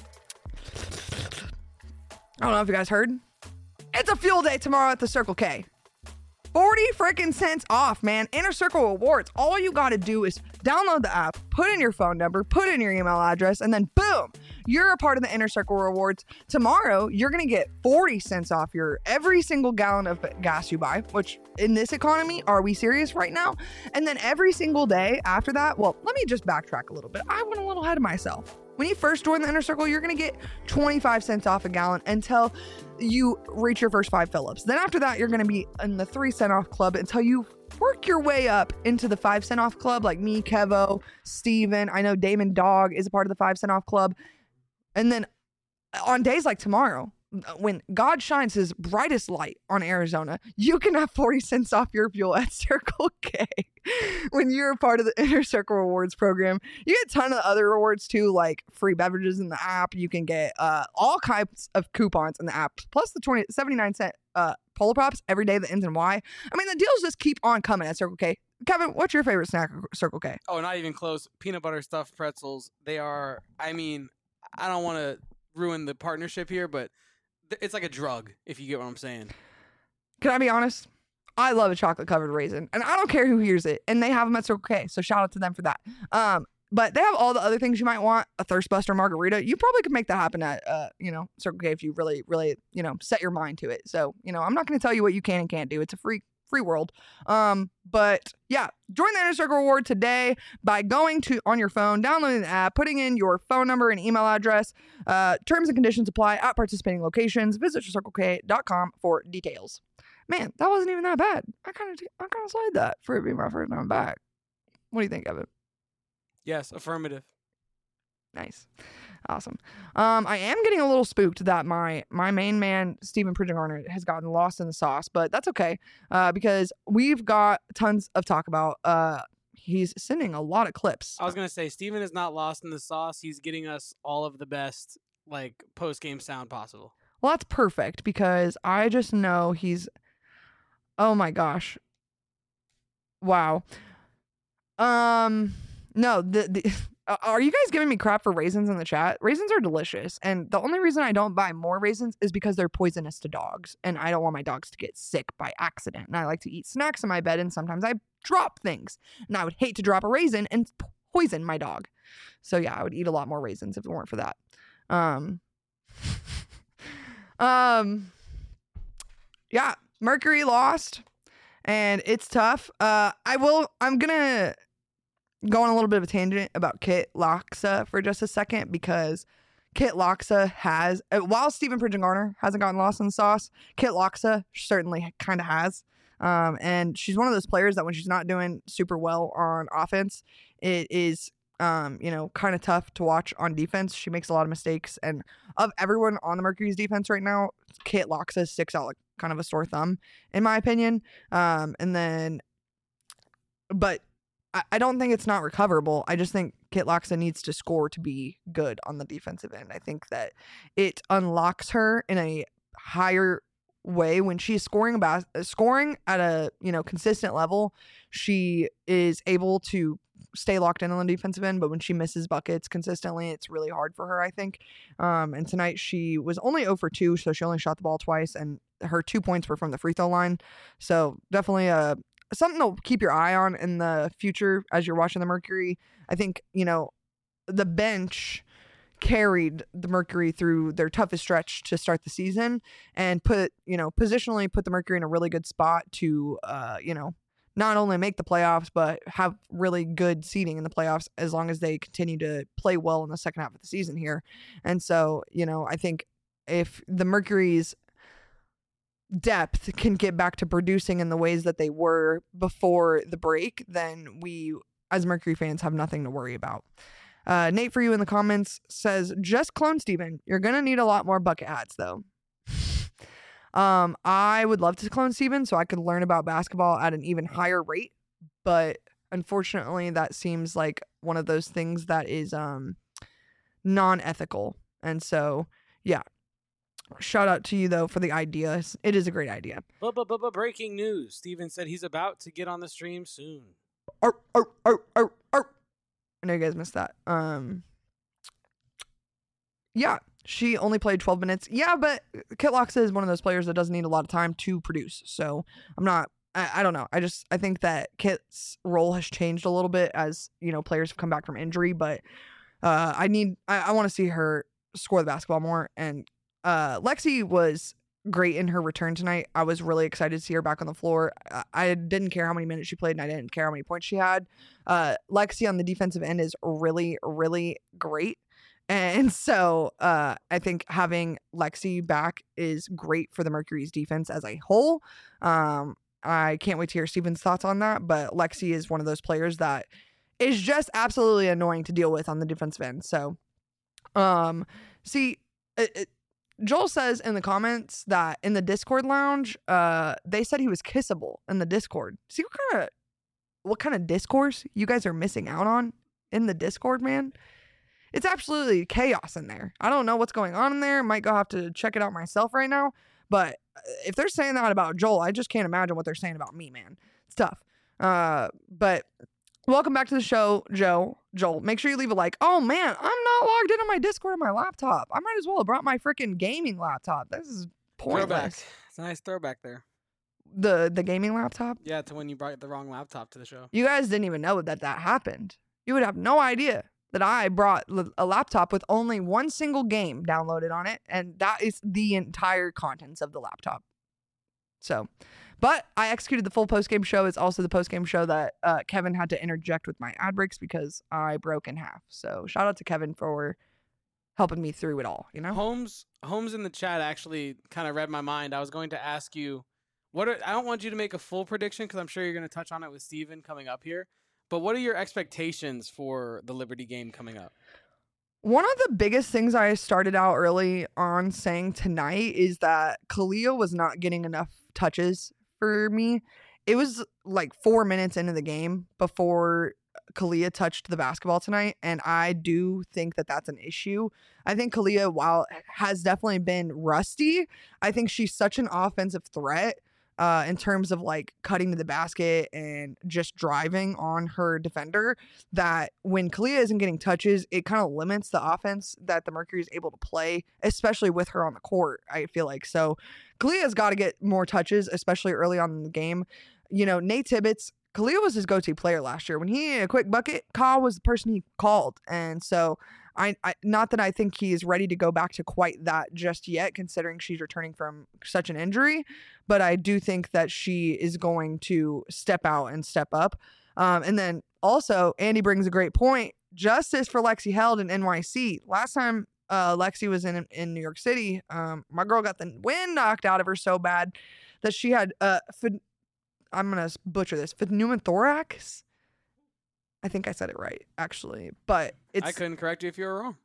I don't know if you guys heard. It's a fuel day tomorrow at the Circle K. 40 freaking cents off, man. Inner Circle rewards. All you got to do is download the app, put in your phone number, put in your email address, and then boom, you're a part of the Inner Circle rewards. Tomorrow, you're going to get 40 cents off your every single gallon of gas you buy, which in this economy, are we serious right now? And then every single day after that, well, let me just backtrack a little bit. I went a little ahead of myself. When you first join the Inner Circle, you're going to get 25 cents off a gallon until you reach your first 5 fill-ups. Then after that, you're going to be in the 3 cent off club until you work your way up into the 5 cent off club, like me, Kevo, Steven. I know Damon Dog is a part of the 5 cent off club. And then on days like tomorrow, when God shines his brightest light on Arizona, you can have 40 cents off your fuel at Circle K. When you're a part of the Inner Circle Rewards program, you get a ton of other rewards too, like free beverages in the app. You can get all kinds of coupons in the app, plus the 79 cent Polar Pops every day that ends in Y. I mean, the deals just keep on coming at Circle K. Kevin, what's your favorite snack at Circle K? Oh, not even close. Peanut butter stuffed pretzels. They are, I mean, I don't want to ruin the partnership here, but it's like a drug, if you get what I'm saying. Can I be honest? I love a chocolate covered raisin, and I don't care who hears it. And they have them at Circle K, so shout out to them for that. But they have all the other things you might want. A Thirst Buster margarita. You probably could make that happen at Circle K if you really, really, set your mind to it. So, I'm not going to tell you what you can and can't do. It's a free world. But yeah, join the Inner Circle Reward today by going on your phone, downloading the app, putting in your phone number and email address. Terms and conditions apply at participating locations. Visit circlek.com for details. Man, that wasn't even that bad. I kind of slide that for it being my first time back. What do you think, Evan? Yes, affirmative. Nice. Awesome. I am getting a little spooked that my main man, Steven Pridgegarner, has gotten lost in the sauce, but that's okay because we've got tons of talk about. He's sending a lot of clips. I was going to say, Steven is not lost in the sauce. He's getting us all of the best post-game sound possible. Well, that's perfect because I just know he's... Oh my gosh. Wow. No, are you guys giving me crap for raisins in the chat? Raisins are delicious. And the only reason I don't buy more raisins is because they're poisonous to dogs. And I don't want my dogs to get sick by accident. And I like to eat snacks in my bed. And sometimes I drop things. And I would hate to drop a raisin and poison my dog. So yeah, I would eat a lot more raisins if it weren't for that. Yeah, Mercury lost. And it's tough. I'm gonna go on a little bit of a tangent about Kit Loxa for just a second because Kit Loxa has, while Steven Pridgegarner hasn't gotten lost in the sauce, Kit Loxa certainly kind of has. And she's one of those players that when she's not doing super well on offense, it is, kind of tough to watch on defense. She makes a lot of mistakes. And of everyone on the Mercury's defense right now, Kit Loxa sticks out like kind of a sore thumb, in my opinion. But I don't think it's not recoverable. I just think Kit Loxa needs to score to be good on the defensive end. I think that it unlocks her in a higher way when she's scoring at a consistent level. She is able to stay locked in on the defensive end, but when she misses buckets consistently, it's really hard for her, I think. And tonight she was only 0 for 2, so she only shot the ball twice, and her 2 points were from the free throw line. So definitely something to keep your eye on in the future as you're watching the Mercury. I think, the bench carried the Mercury through their toughest stretch to start the season and positionally put the Mercury in a really good spot to, not only make the playoffs, but have really good seeding in the playoffs as long as they continue to play well in the second half of the season here. And so, I think if the Mercury's depth can get back to producing in the ways that they were before the break, then we, as Mercury fans, have nothing to worry about. Nate for you in the comments says, just clone Steven. You're going to need a lot more bucket hats, though. I would love to clone Steven so I could learn about basketball at an even higher rate. But unfortunately, that seems like one of those things that is non-ethical. And so, yeah. Shout out to you, though, for the idea. It is a great idea. Breaking news. Steven said he's about to get on the stream soon. I know you guys missed that. Yeah, she only played 12 minutes. Yeah, but Kitlox is one of those players that doesn't need a lot of time to produce. So I don't know. I think that Kit's role has changed a little bit as, players have come back from injury. But I want to see her score the basketball more. And Lexi was great in her return tonight. I was really excited to see her back on the floor. I didn't care how many minutes she played, and I didn't care how many points she had. Lexi on the defensive end is really, really great. And so I think having Lexi back is great for the Mercury's defense as a whole. I can't wait to hear Steven's thoughts on that, but Lexi is one of those players that is just absolutely annoying to deal with on the defensive end. So, Joel says in the comments that in the Discord lounge, they said he was kissable in the Discord. See what kind of discourse you guys are missing out on in the Discord, man? It's absolutely chaos in there. I don't know what's going on in there. Might go have to check it out myself right now. But if they're saying that about Joel, I just can't imagine what they're saying about me, man. It's tough. But welcome back to the show, Joel. Make sure you leave a like. Oh, man, I'm not logged into my Discord on my laptop. I might as well have brought my freaking gaming laptop. This is pointless. Throwback. It's a nice throwback there. The gaming laptop? Yeah, to when you brought the wrong laptop to the show. You guys didn't even know that happened. You would have no idea that I brought a laptop with only one single game downloaded on it, and that is the entire contents of the laptop. So, but I executed the full post-game show. It's also the post-game show that Kevin had to interject with my ad breaks because I broke in half. So shout out to Kevin for helping me through it all, Holmes in the chat actually kind of read my mind. I was going to ask you, I don't want you to make a full prediction because I'm sure you're going to touch on it with Steven coming up here. But what are your expectations for the Liberty game coming up? One of the biggest things I started out early on saying tonight is that Kalia was not getting enough touches for me. It was like 4 minutes into the game before Kalia touched the basketball tonight, and I do think that that's an issue. I think Kalia, while has definitely been rusty, I think she's such an offensive threat in terms of like cutting to the basket and just driving on her defender, that when Kalia isn't getting touches, it kind of limits the offense that the Mercury is able to play, especially with her on the court, I feel like. So Kalia's got to get more touches, especially early on in the game. Nate Tibbetts, Kalia was his go-to player last year. When he needed a quick bucket, Kyle was the person he called. And so I not that I think he is ready to go back to quite that just yet, considering she's returning from such an injury, but I do think that she is going to step out and step up. And then also, Andy brings a great point. Justice for Lexi Held in NYC. Last time Lexi was in New York City, my girl got the wind knocked out of her so bad that she had I'm going to butcher this, pneumothorax. I think I said it right, actually, but I couldn't correct you if you were wrong.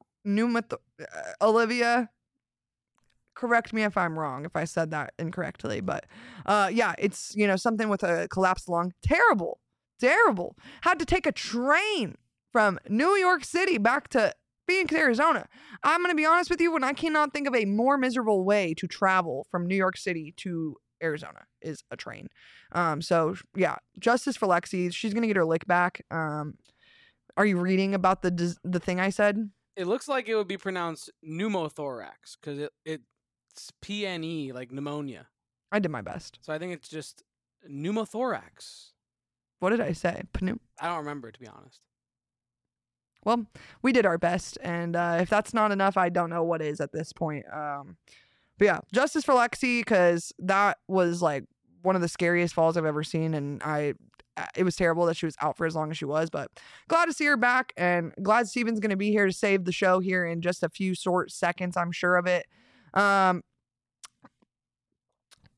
Olivia, correct me if I'm wrong, if I said that incorrectly, but yeah, it's, something with a collapsed lung. Terrible. Had to take a train from New York City back to Phoenix, Arizona. I'm going to be honest with you, when I cannot think of a more miserable way to travel from New York City to Arizona is a train. So yeah, justice for Lexi. She's gonna get her lick back. Are you reading about the thing I said? It looks like it would be pneumothorax pneumothorax because it's PNE, like pneumonia. I did my best. So I think it's just pneumothorax. What did I say? I don't remember, to be honest. Well, we did our best, and if that's not enough, I don't know what is at this point. But yeah, justice for Lexi, because that was like one of the scariest falls I've ever seen, and it was terrible that she was out for as long as she was, but glad to see her back, and glad Steven's going to be here to save the show here in just a few short seconds, I'm sure of it.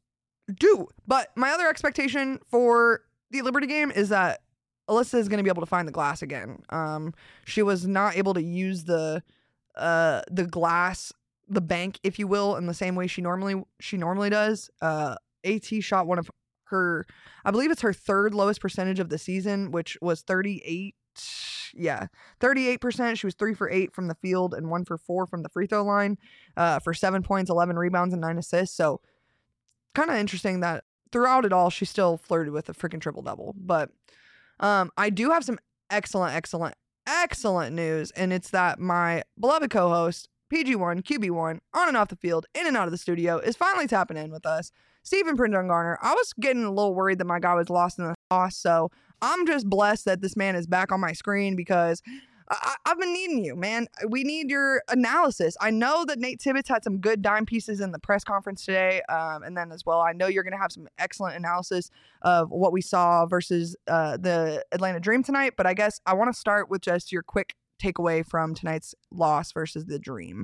do. But my other expectation for the Liberty game is that Alyssa is going to be able to find the glass again. She was not able to use the glass, the bank, if you will, in the same way she normally does. AT shot one of her, I believe it's her third lowest percentage of the season, which was 38. Yeah, 38%. She was 3 for 8 from the field and 1 for 4 from the free throw line, for 7 points, 11 rebounds, and 9 assists. So kind of interesting that throughout it all, she still flirted with a freaking triple double. But I do have some excellent news, and it's that my beloved co-host PG1, QB1, on and off the field, in and out of the studio, is finally tapping in with us. Stephen Prindon Garner. I was getting a little worried that my guy was lost in the sauce, so I'm just blessed that this man is back on my screen because I've been needing you, man. We need your analysis. I know that Nate Tibbetts had some good dime pieces in the press conference today, and then as well, I know you're going to have some excellent analysis of what we saw versus the Atlanta Dream tonight, but I guess I want to start with just your quick takeaway from tonight's loss versus the Dream.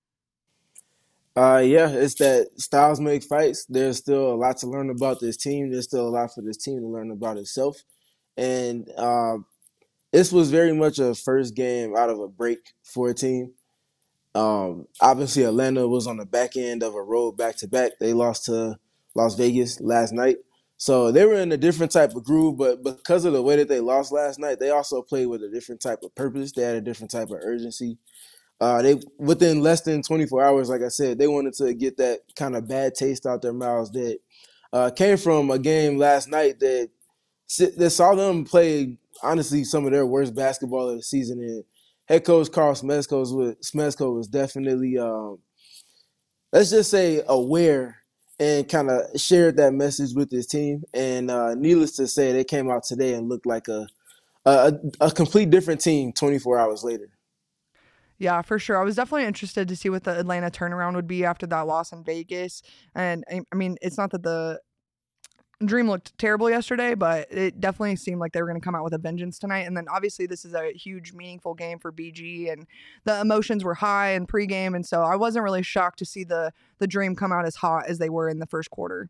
Yeah, it's that styles make fights. There's still a lot to learn about this team. There's still a lot for this team to learn about itself. And this was very much a first game out of a break for a team. Obviously, Atlanta was on the back end of a road back-to-back. They lost to Las Vegas last night. So they were in a different type of groove, but because of the way that they lost last night, they also played with a different type of purpose. They had a different type of urgency. They within less than 24 hours, like I said, they wanted to get that kind of bad taste out their mouths that came from a game last night that saw them play, honestly, some of their worst basketball of the season. And head coach Carl Smezko was definitely, let's just say, aware and kind of shared that message with his team. And needless to say, they came out today and looked like a complete different team 24 hours later. Yeah, for sure. I was definitely interested to see what the Atlanta turnaround would be after that loss in Vegas. And I mean, it's not that the Dream looked terrible yesterday, but it definitely seemed like they were going to come out with a vengeance tonight. And then obviously this is a huge, meaningful game for BG, and the emotions were high in pregame. And so I wasn't really shocked to see the Dream come out as hot as they were in the first quarter.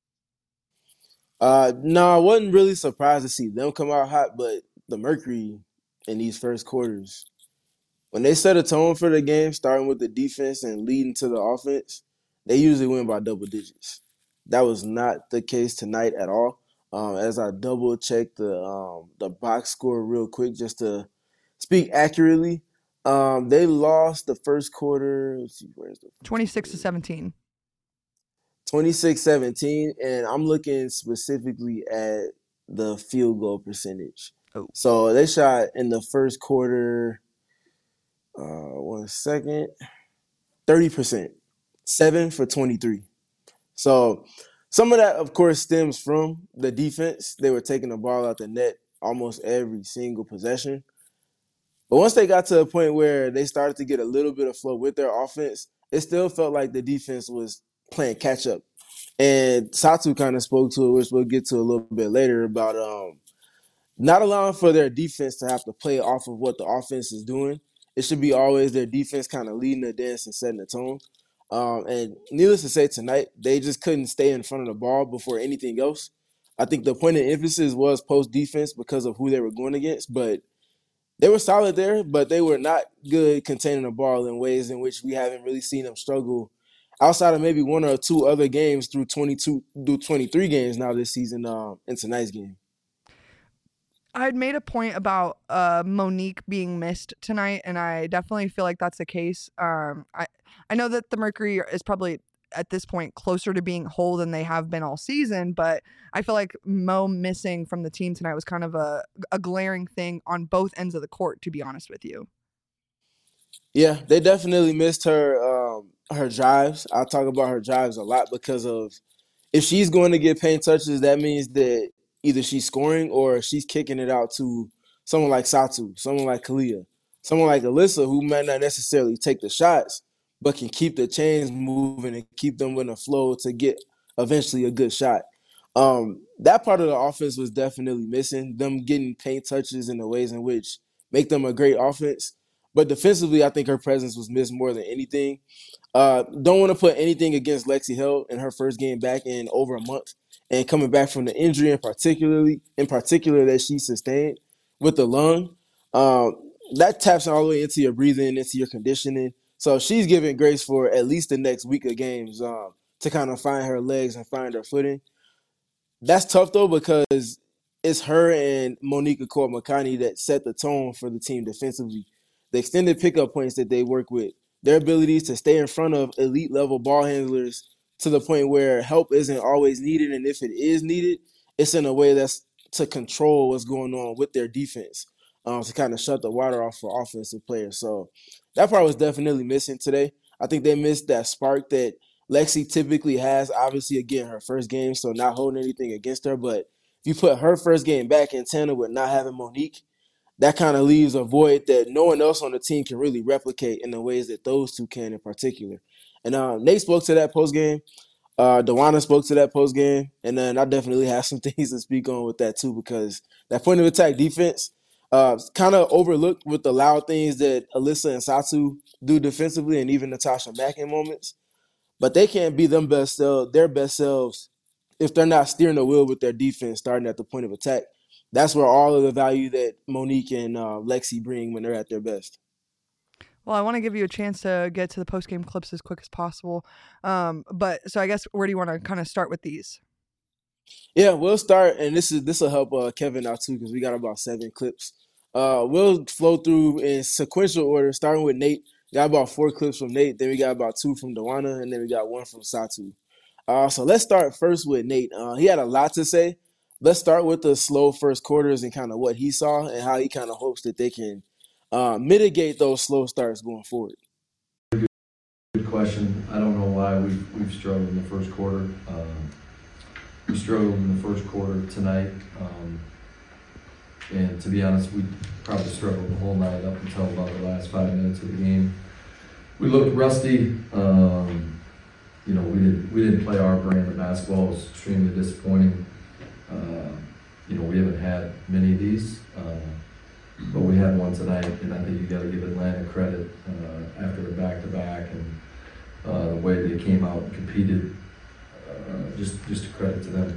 No, I wasn't really surprised to see them come out hot, but the Mercury in these first quarters, when they set a tone for the game, starting with the defense and leading to the offense, they usually win by double digits. That was not the case tonight at all. As I double checked the box score real quick, just to speak accurately, they lost the first quarter. Let's see, where's the 26-17. 26-17, and I'm looking specifically at the field goal percentage. Oh. So they shot in the first quarter. 1 second. 30%. 7 for 23. So some of that, of course, stems from the defense. They were taking the ball out the net almost every single possession. But once they got to a point where they started to get a little bit of flow with their offense, it still felt like the defense was playing catch up. And Satu kind of spoke to it, which we'll get to a little bit later, about not allowing for their defense to have to play off of what the offense is doing. It should be always their defense kind of leading the dance and setting the tone. And needless to say, tonight, they just couldn't stay in front of the ball before anything else. I think the point of emphasis was post-defense because of who they were going against, but they were solid there, but they were not good containing the ball in ways in which we haven't really seen them struggle outside of maybe one or two other games through 23 games now this season in tonight's game. I had made a point about Monique being missed tonight, and I definitely feel like that's the case. I know that the Mercury is probably at this point closer to being whole than they have been all season, but I feel like Mo missing from the team tonight was kind of a glaring thing on both ends of the court, to be honest with you. Yeah, they definitely missed her drives. I talk about her drives a lot because of if she's going to get paint touches, that means that either she's scoring or she's kicking it out to someone like Satu, someone like Kalia, someone like Alyssa, who might not necessarily take the shots, but can keep the chains moving and keep them in a flow to get eventually a good shot. That part of the offense was definitely missing, them getting paint touches in the ways in which make them a great offense. But defensively, I think her presence was missed more than anything. Don't want to put anything against Lexi Hill in her first game back in over a month and coming back from the injury in particular that she sustained with the lung. That taps all the way into your breathing, into your conditioning. So she's giving grace for at least the next week of games to kind of find her legs and find her footing. That's tough though because it's her and Monica Makani that set the tone for the team defensively. The extended pickup points that they work with, their abilities to stay in front of elite level ball handlers to the point where help isn't always needed, and if it is needed, it's in a way that's to control what's going on with their defense, to kind of shut the water off for offensive players. So that part was definitely missing today. I think they missed that spark that Lexi typically has. Obviously, again, her first game, so not holding anything against her. But if you put her first game back in tandem with not having Monique, that kind of leaves a void that no one else on the team can really replicate in the ways that those two can in particular. And Nate spoke to that post game. Dewana spoke to that post game, and then I definitely have some things to speak on with that too because that point of attack defense kind of overlooked with the loud things that Alyssa and Satu do defensively, and even Natasha Mack in moments. But they can't be their best selves if they're not steering the wheel with their defense starting at the point of attack. That's where all of the value that Monique and Lexi bring when they're at their best. Well, I want to give you a chance to get to the post-game clips as quick as possible. But so I guess where do you want to kind of start with these? Yeah, we'll start, and this will help Kevin out too because we got about 7 clips. We'll flow through in sequential order, starting with Nate. Got about 4 clips from Nate, then we got about 2 from Dewana, and then we got 1 from Satu. So let's start first with Nate. He had a lot to say. Let's start with the slow first quarters and kind of what he saw and how he kind of hopes that they can mitigate those slow starts going forward. Good question. I don't know why we've struggled in the first quarter. We struggled in the first quarter tonight. And to be honest, we probably struggled the whole night up until about the last 5 minutes of the game. We looked rusty. We didn't play our brand of basketball. It was extremely disappointing. We haven't had many of these, but we had one tonight, and I think you got to give Atlanta credit after a back-to-back and the way they came out and competed. Just a credit to them.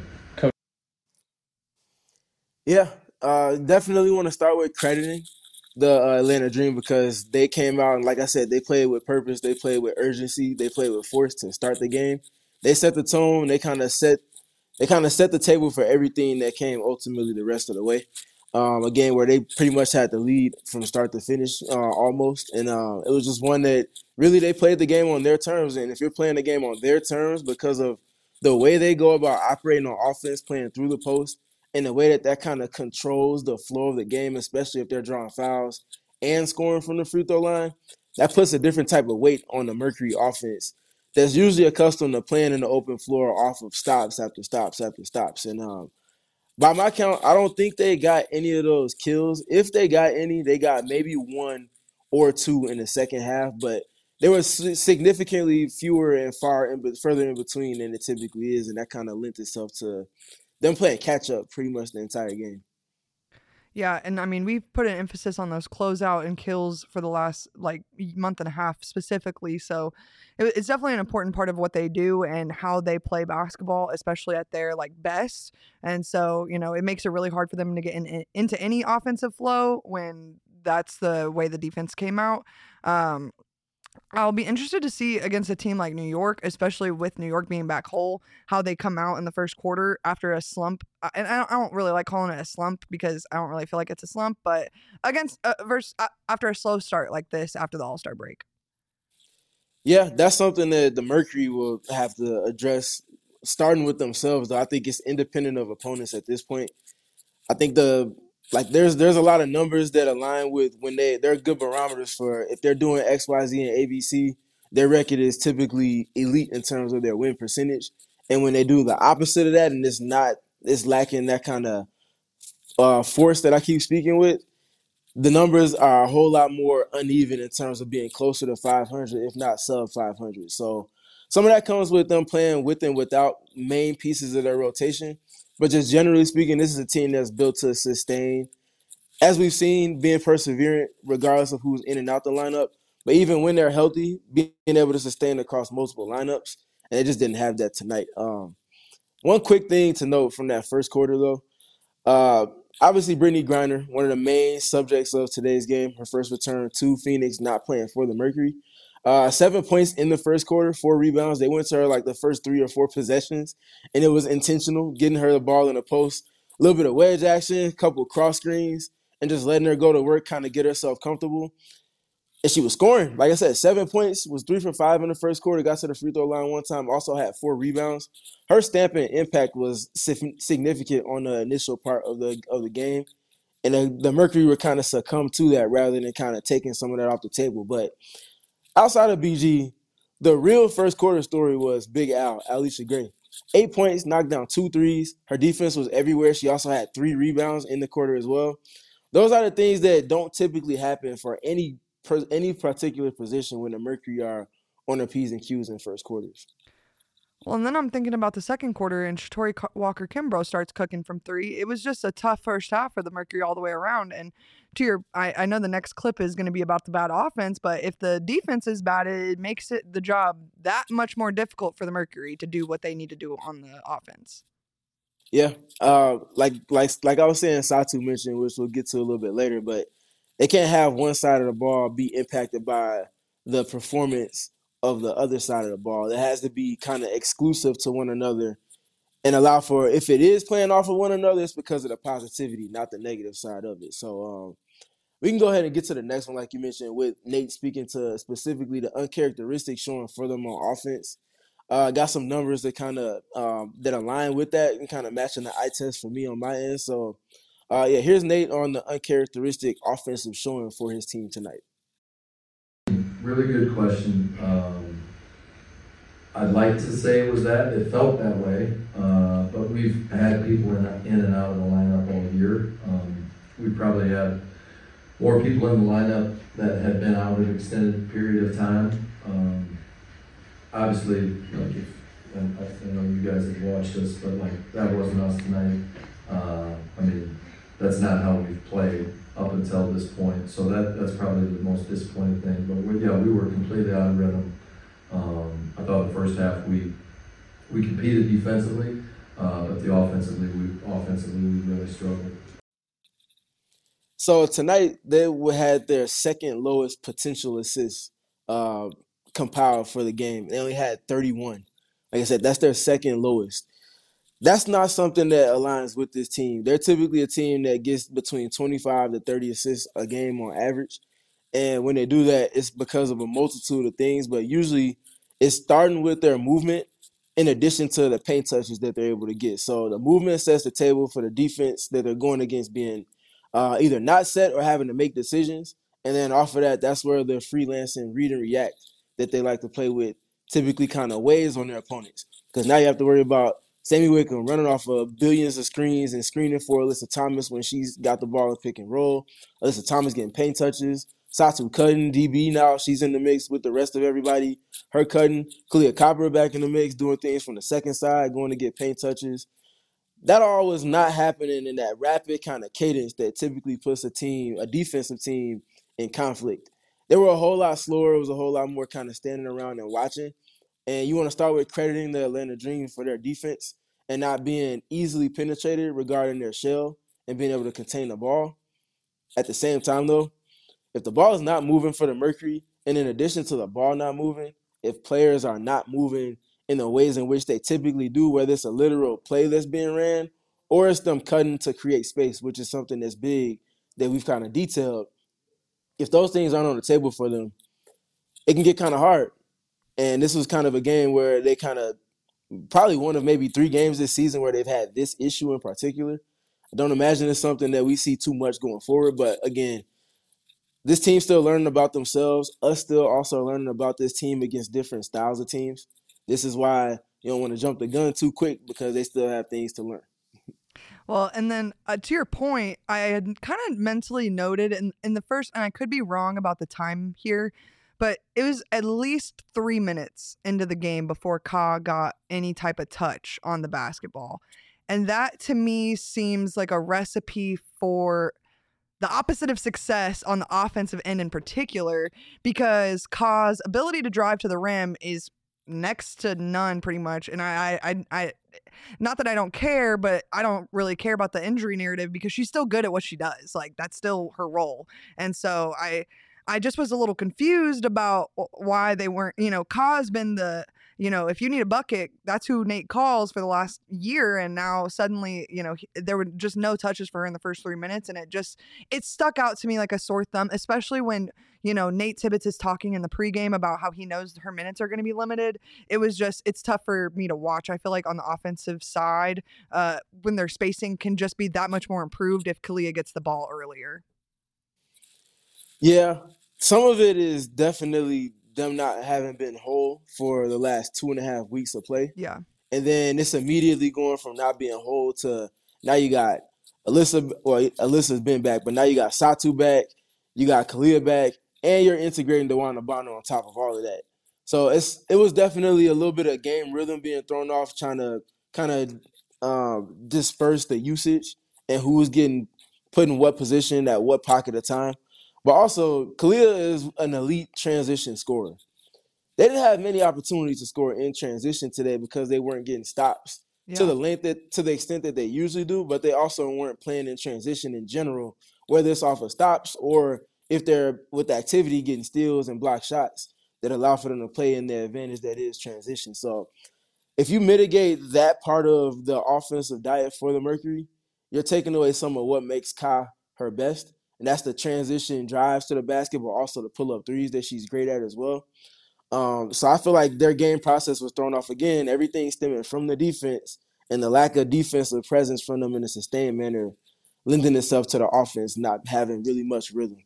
Yeah, definitely want to start with crediting the Atlanta Dream because they came out and, like I said, they played with purpose. They played with urgency. They played with force to start the game. They set the tone. They kind of set the table for everything that came ultimately the rest of the way. Again, where they pretty much had the lead from start to finish almost. And it was just one that really they played the game on their terms. And if you're playing the game on their terms because of the way they go about operating on offense, playing through the post, and the way that kind of controls the flow of the game, especially if they're drawing fouls and scoring from the free throw line, that puts a different type of weight on the Mercury offense that's usually accustomed to playing in the open floor off of stops after stops after stops. And by my count, I don't think they got any of those kills. If they got any, they got maybe 1 or 2 in the second half, but there was significantly fewer and further in between than it typically is, and that kind of lent itself to them playing catch up pretty much the entire game. Yeah, and I mean, we've put an emphasis on those closeout and kills for the last month and a half specifically. So it's definitely an important part of what they do and how they play basketball, especially at their best. And so, it makes it really hard for them to get into any offensive flow when that's the way the defense came out. I'll be interested to see against a team like New York, especially with New York being back whole, how they come out in the first quarter after a slump. And I don't really like calling it a slump because I don't really feel like it's a slump, but after a slow start like this after the All-Star break. Yeah, that's something that the Mercury will have to address starting with themselves. Though I think it's independent of opponents at this point. I think there's a lot of numbers that align with when they're good barometers for if they're doing X, Y, Z, and ABC. Their record is typically elite in terms of their win percentage, and when they do the opposite of that, and it's lacking that kind of force that I keep speaking with, the numbers are a whole lot more uneven in terms of being closer to 500, if not sub 500. So some of that comes with them playing with and without main pieces of their rotation. But just generally speaking, this is a team that's built to sustain as we've seen, being perseverant regardless of who's in and out the lineup. But even when they're healthy, being able to sustain across multiple lineups, and they just didn't have that tonight. One quick thing to note from that first quarter, though. Obviously, Brittany Griner, one of the main subjects of today's game, her first return to Phoenix, not playing for the Mercury. 7 points in the first quarter, 4 rebounds. They went to her like the first 3 or 4 possessions, and it was intentional, getting her the ball in the post, a little bit of wedge action, a couple of cross screens, and just letting her go to work, kind of get herself comfortable. And she was scoring. Like I said, 7 points, was 3 for 5 in the first quarter, got to the free throw line one time, also had 4 rebounds. Her stamp and impact was significant on the initial part of the game. And the Mercury would kind of succumb to that rather than kind of taking some of that off the table. But outside of BG, the real first quarter story was Big Al, Alicia Gray. 8 points, knocked down 2 threes. Her defense was everywhere. She also had 3 rebounds in the quarter as well. Those are the things that don't typically happen for any particular position when the Mercury are on their P's and Q's in first quarters. Well, and then I'm thinking about the second quarter, and Shatori Walker-Kimbrough starts cooking from 3. It was just a tough first half for the Mercury all the way around. And I know the next clip is going to be about the bad offense, but if the defense is bad, it makes the job that much more difficult for the Mercury to do what they need to do on the offense. Yeah, like I was saying, Satu mentioned, which we'll get to a little bit later, but they can't have one side of the ball be impacted by the performance of the other side of the ball. It has to be kind of exclusive to one another and allow for, if it is playing off of one another, it's because of the positivity, not the negative side of it. So we can go ahead and get to the next one, like you mentioned, with Nate speaking to specifically the uncharacteristics showing for them on offense. Got some numbers that kind of that align with that and kind of matching the eye test for me on my end. So, here's Nate on the uncharacteristic offensive showing for his team tonight. Really good question. I'd like to say it was that. It felt that way. But we've had people in and out of the lineup all year. We probably had more people in the lineup that had been out an extended period of time. Obviously, like I know you guys have watched us, but like that wasn't us tonight. I mean, that's not how we've played up until this point. So that's probably the most disappointing thing. But we were completely out of rhythm. I thought the first half we competed defensively, but offensively we really struggled. So tonight they had their second lowest potential assists compiled for the game. They only had 31. Like I said, that's their second lowest. That's not something that aligns with this team. They're typically a team that gets between 25 to 30 assists a game on average. And when they do that, it's because of a multitude of things, but usually it's starting with their movement in addition to the paint touches that they're able to get. So the movement sets the table for the defense that they're going against being either not set or having to make decisions. And then off of that, that's where the freelancing read and react that they like to play with typically kind of weighs on their opponents. Because now you have to worry about Sammy Wickham running off of billions of screens and screening for Alyssa Thomas when she's got the ball in pick and roll. Alyssa Thomas getting paint touches. Satu cutting, DB now, she's in the mix with the rest of everybody. Her cutting, Kalia Copper back in the mix, doing things from the second side, going to get paint touches. That all was not happening in that rapid kind of cadence that typically puts a defensive team, in conflict. They were a whole lot slower. It was a whole lot more kind of standing around and watching. And you want to start with crediting the Atlanta Dream for their defense and not being easily penetrated regarding their shell and being able to contain the ball. At the same time, though, if the ball is not moving for the Mercury, and in addition to the ball not moving, if players are not moving in the ways in which they typically do, whether it's a literal play that's being ran or it's them cutting to create space, which is something that's big that we've kind of detailed, if those things aren't on the table for them, it can get kind of hard. And this was kind of a game where they kind of probably one of maybe 3 games this season where they've had this issue in particular. I don't imagine it's something that we see too much going forward. But again, this team's still learning about themselves. Us still also learning about this team against different styles of teams. This is why you don't want to jump the gun too quick because they still have things to learn. Well, and then to your point, I had kind of mentally noted in the first, and I could be wrong about the time here, but it was at least 3 minutes into the game before Ka got any type of touch on the basketball. And that to me seems like a recipe for the opposite of success on the offensive end in particular, because Ka's ability to drive to the rim is next to none pretty much. And I not that I don't care, but I don't really care about the injury narrative because she's still good at what she does. Like, that's still her role. And so I just was a little confused about why they weren't, Ka's been the, if you need a bucket, that's who Nate calls for the last year. And now suddenly, there were just no touches for her in the first 3 minutes. And it stuck out to me like a sore thumb, especially when, Nate Tibbetts is talking in the pregame about how he knows her minutes are going to be limited. It's tough for me to watch. I feel like on the offensive side, when their spacing can just be that much more improved if Kalia gets the ball earlier. Yeah, some of it is definitely them not having been whole for the last 2.5 weeks of play. Yeah. And then it's immediately going from not being whole to now you got Alyssa. Well, Alyssa's been back, but now you got Satu back, you got Kalia back, and you're integrating DeWanna Bonner on top of all of that. So it was definitely a little bit of game rhythm being thrown off, trying to kind of disperse the usage and who was getting put in what position at what pocket of time. But also, Kalia is an elite transition scorer. They didn't have many opportunities to score in transition today because they weren't getting stops to the extent that they usually do, but they also weren't playing in transition in general, whether it's off of stops or if they're with activity getting steals and block shots that allow for them to play in their advantage that is transition. So if you mitigate that part of the offensive diet for the Mercury, you're taking away some of what makes Ka her best, and that's the transition drives to the basket, but also the pull-up threes that she's great at as well. So I feel like their game process was thrown off again. Everything stemming from the defense and the lack of defensive presence from them in a sustained manner, lending itself to the offense not having really much rhythm.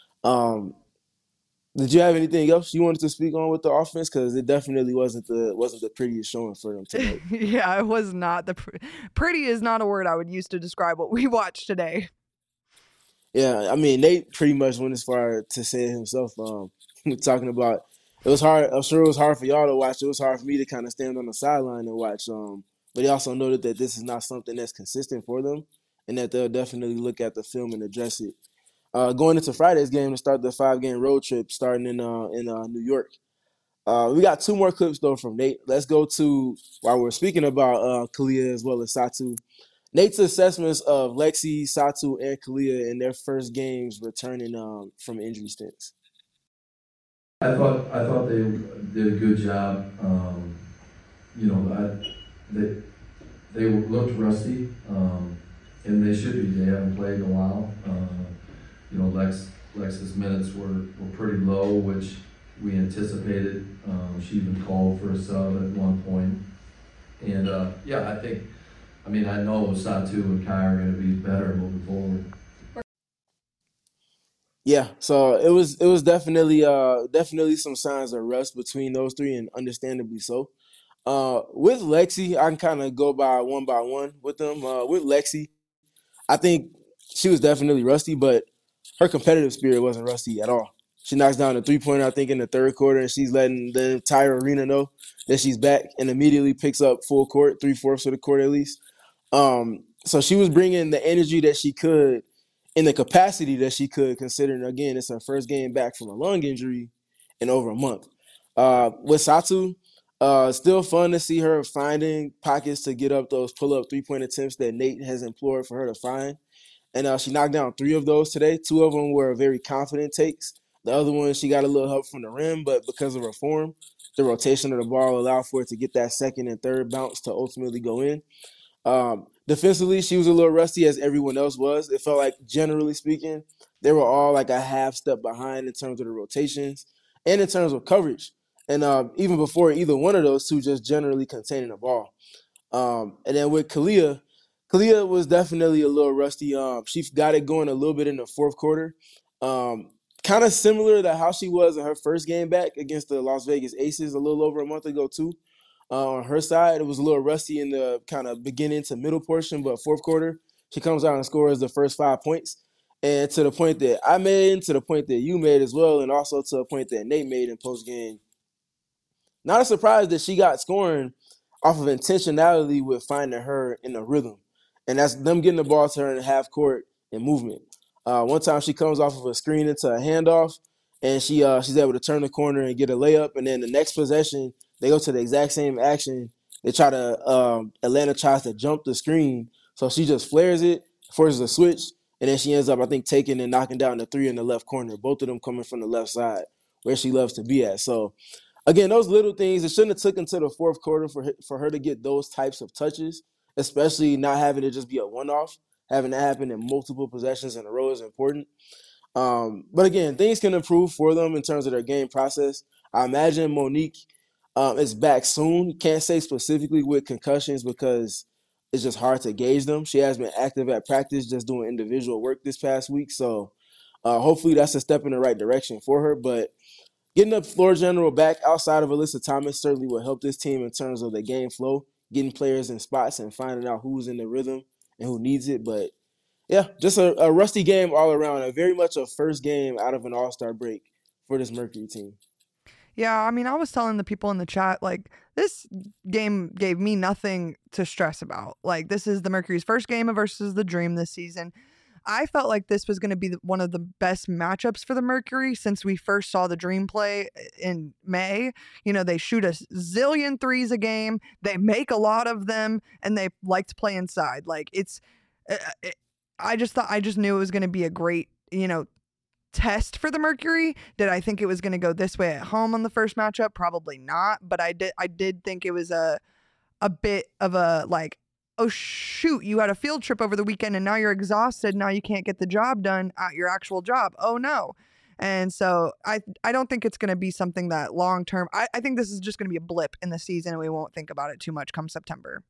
Did you have anything else you wanted to speak on with the offense? Because it definitely wasn't the prettiest showing for them tonight. Yeah, it was not. Pretty is not a word I would use to describe what we watched today. Yeah, I mean, Nate pretty much went as far to say it himself, talking about it was hard. I'm sure it was hard for y'all to watch. It was hard for me to kind of stand on the sideline and watch. But he also noted that this is not something that's consistent for them and that they'll definitely look at the film and address it. Going into Friday's game to start the 5-game road trip starting in New York. We got 2 more clips, though, from Nate. Let's go to, while we're speaking about Kalia as well as Satu, Nate's assessments of Lexi, Satu, and Kalia in their first games returning from injury stints. I thought they did a good job. They looked rusty, and they should be. They haven't played in a while. Lex's minutes were pretty low, which we anticipated. She even called for a sub at one point. And I know Satu and Kai are going to be better moving forward. Yeah, so it was definitely some signs of rust between those 3, and understandably so. With Lexi, I can kind of go by one with them. With Lexi, I think she was definitely rusty, but her competitive spirit wasn't rusty at all. She knocks down a 3-pointer, I think, in the third quarter, and she's letting the entire arena know that she's back and immediately picks up full court, 3/4 of the court at least. So she was bringing the energy that she could in the capacity that she could, considering, again, it's her first game back from a lung injury in over a month. With Satu, still fun to see her finding pockets to get up those pull-up 3-point attempts that Nate has implored for her to find. And she knocked down 3 of those today. 2 of them were very confident takes. The other one, she got a little help from the rim, but because of her form, the rotation of the ball allowed for it to get that second and third bounce to ultimately go in. Defensively, she was a little rusty as everyone else was. It felt like, generally speaking, they were all like a half step behind in terms of the rotations and in terms of coverage. And even before either one of those 2, just generally containing the ball. And then with Kalia was definitely a little rusty. She got it going a little bit in the fourth quarter. Kind of similar to how she was in her first game back against the Las Vegas Aces a little over a month ago, too. On her side, it was a little rusty in the kind of beginning to middle portion, but fourth quarter, she comes out and scores the first 5 points. And to the point that I made, to the point that you made as well, and also to a point that Nate made in postgame, not a surprise that she got scoring off of intentionality with finding her in a rhythm. And that's them getting the ball to her in half court and movement. One time she comes off of a screen into a handoff, and she's able to turn the corner and get a layup. And then the next possession, they go to the exact same action. They try to Atlanta tries to jump the screen, so she just flares it, forces a switch, and then she ends up, I think, taking and knocking down the three in the left corner. Both of them coming from the left side, where she loves to be at. So again, those little things, it shouldn't have took until the fourth quarter for her to get those types of touches, especially not having it just be a one-off. Having that happen in multiple possessions in a row is important. But again, things can improve for them in terms of their game process. I imagine Monique is back soon. Can't say specifically with concussions because it's just hard to gauge them. She has been active at practice, just doing individual work this past week. So hopefully that's a step in the right direction for her. But getting the floor general back outside of Alyssa Thomas certainly will help this team in terms of the game flow, getting players in spots and finding out who's in the rhythm and who needs it. But yeah, just a rusty game all around. A very much a first game out of an All-Star break for this Mercury team. Yeah, I mean, I was telling the people in the chat, like, this game gave me nothing to stress about. Like, this is the Mercury's first game versus the Dream this season. I felt like this was going to be one of the best matchups for the Mercury since we first saw the Dream play in May. You know, they shoot a zillion threes a game, they make a lot of them, and they like to play inside. Like, I just knew it was going to be a great, test for the Mercury. Did I think it was going to go this way at home on the first matchup? Probably not, but I did think it was a bit of a like, oh shoot, you had a field trip over the weekend and now you're exhausted. Now you can't get the job done at your actual job. Oh no. And so I don't think it's going to be something that long term. I think this is just going to be a blip in the season and we won't think about it too much come September.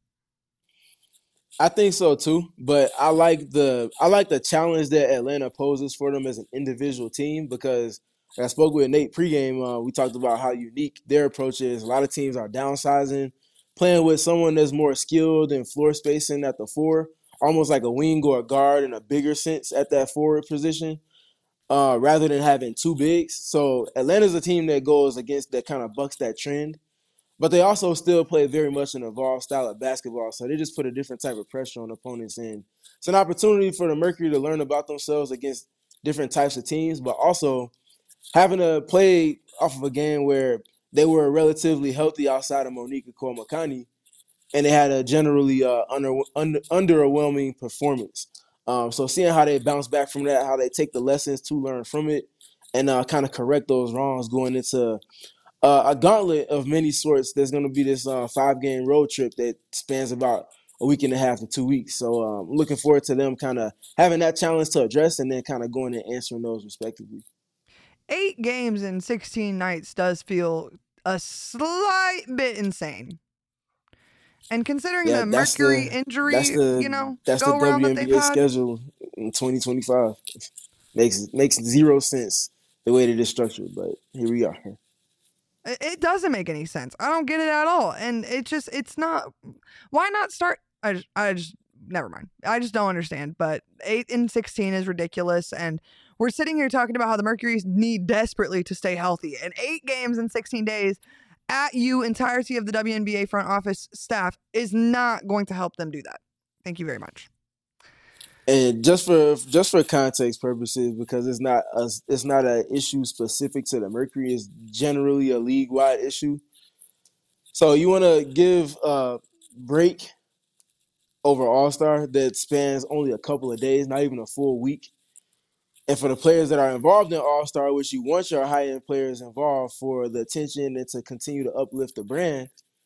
I think so too, but I like the challenge that Atlanta poses for them as an individual team because I spoke with Nate pregame. We talked about how unique their approach is. A lot of teams are downsizing, playing with someone that's more skilled in floor spacing at the four, almost like a wing or a guard in a bigger sense at that forward position, rather than having two bigs. So Atlanta's a team that goes against that kind of bucks that trend. But they also still play very much an evolved style of basketball, so they just put a different type of pressure on opponents. And it's an opportunity for the Mercury to learn about themselves against different types of teams, but also having to play off of a game where they were relatively healthy outside of Monique Makani, and they had a generally underwhelming performance. So seeing how they bounce back from that, how they take the lessons to learn from it, and kind of correct those wrongs going into a gauntlet of many sorts. There's going to be this 5-game road trip that spans about a week and a half to 2 weeks. So I'm looking forward to them kind of having that challenge to address and then kind of going and answering those respectively. 8 games in 16 nights does feel a slight bit insane. And considering the Mercury injury, that's the WNBA schedule in 2025. Makes zero sense the way that it's structured, but here we are. It doesn't make any sense. I don't get it at all. And it's not, why not start? I just, never mind. I just don't understand. But 8 and 16 is ridiculous. And we're sitting here talking about how the Mercury's need desperately to stay healthy. And 8 games in 16 days at entirety of the WNBA front office staff is not going to help them do that. Thank you very much. And just for context purposes, because it's not an issue specific to the Mercury, it's generally a league-wide issue. So you want to give a break over All-Star that spans only a couple of days, not even a full week. And for the players that are involved in All-Star, which you want your high-end players involved for the attention and to continue to uplift the brand,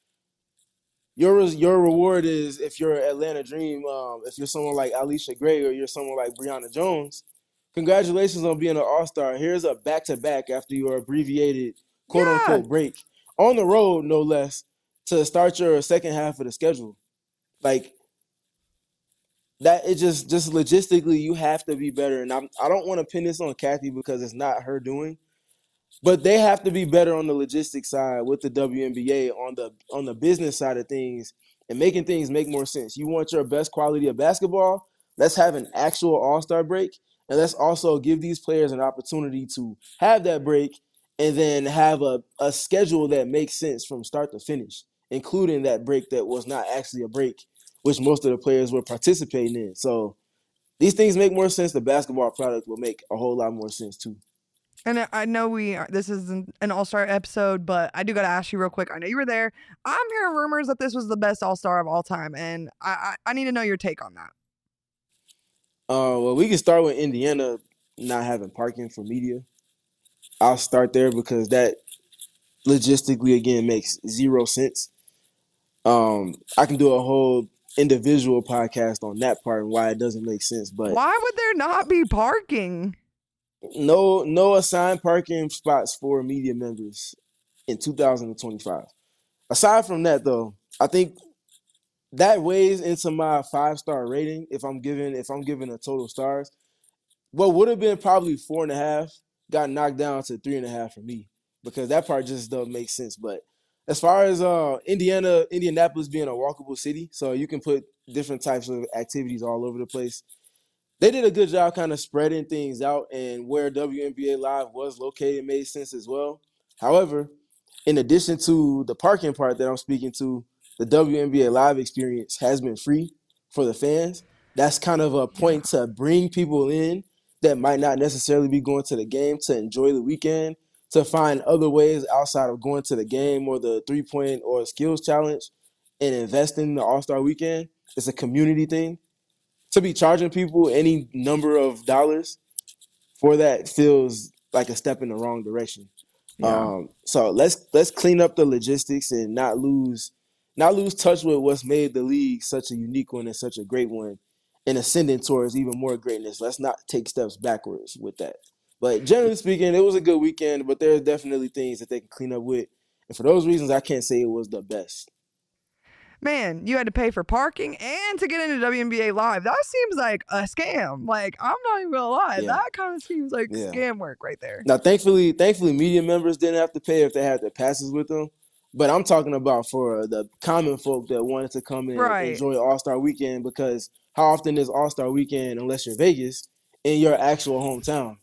your reward is, if you're Atlanta Dream, if you're someone like Alicia Gray or you're someone like Brianna Jones, congratulations on being an All-Star. Here's a back-to-back after your abbreviated quote-unquote break on the road, no less, to start your second half of the schedule. Like, that, it just logistically, you have to be better. And I don't want to pin this on Kathy because it's not her doing. But they have to be better on the logistics side with the WNBA on the business side of things and making things make more sense. You want your best quality of basketball? Let's have an actual All-Star break, and let's also give these players an opportunity to have that break and then have a schedule that makes sense from start to finish, including that break that was not actually a break, which most of the players were participating in. So these things make more sense. The basketball product will make a whole lot more sense too. And I know this isn't an All-Star episode, but I do got to ask you real quick. I know you were there. I'm hearing rumors that this was the best All-Star of all time, and I need to know your take on that. Well, we can start with Indiana not having parking for media. I'll start there because that logistically, again, makes zero sense. I can do a whole individual podcast on that part and why it doesn't make sense. But why would there not be parking? No assigned parking spots for media members in 2025. Aside from that, though, I think that weighs into my 5-star rating. If I'm giving a total stars, what would have been probably 4.5 got knocked down to 3.5 for me because that part just doesn't make sense. But as far as Indianapolis being a walkable city, so you can put different types of activities all over the place. They did a good job kind of spreading things out, and where WNBA Live was located made sense as well. However, in addition to the parking part that I'm speaking to, the WNBA Live experience has been free for the fans. That's kind of a point to bring people in that might not necessarily be going to the game to enjoy the weekend, to find other ways outside of going to the game or the 3-point or skills challenge and invest in the All-Star weekend. It's a community thing. To be charging people any number of dollars for that feels like a step in the wrong direction. Yeah. So let's clean up the logistics and not lose touch with what's made the league such a unique one and such a great one and ascending towards even more greatness. Let's not take steps backwards with that. But generally speaking, it was a good weekend, but there's definitely things that they can clean up with. And for those reasons, I can't say it was the best. Man, you had to pay for parking and to get into WNBA Live. That seems like a scam. Like, I'm not even gonna lie. Yeah. That kind of seems like scam work right there. Now, thankfully, media members didn't have to pay if they had their passes with them. But I'm talking about for the common folk that wanted to come in and enjoy All-Star Weekend, because how often is All-Star Weekend, unless you're Vegas, in your actual hometown?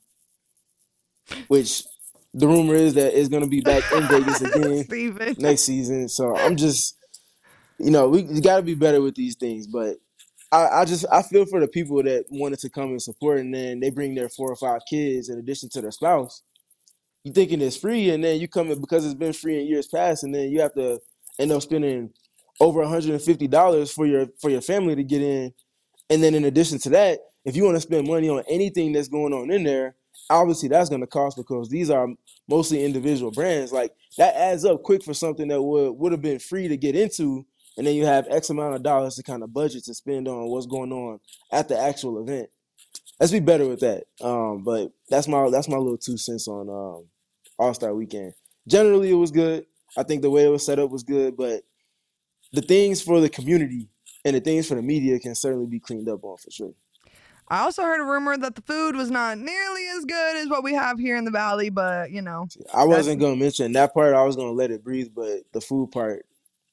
Which the rumor is that it's going to be back in Vegas again next season. So I'm just, we got to be better with these things. But I feel for the people that wanted to come and support, and then they bring their 4 or 5 kids in addition to their spouse. You thinking it's free, and then you come in because it's been free in years past, and then you have to end up spending over $150 for your family to get in. And then in addition to that, if you want to spend money on anything that's going on in there, obviously that's going to cost because these are mostly individual brands. Like that adds up quick for something that would have been free to get into, and then you have X amount of dollars to kind of budget to spend on what's going on at the actual event. Let's be better with that. But that's my little 2 cents on All-Star Weekend. Generally, it was good. I think the way it was set up was good, but the things for the community and the things for the media can certainly be cleaned up on for sure. I also heard a rumor that the food was not nearly as good as what we have here in the Valley, but I wasn't going to mention that part. I was going to let it breathe, but the food part.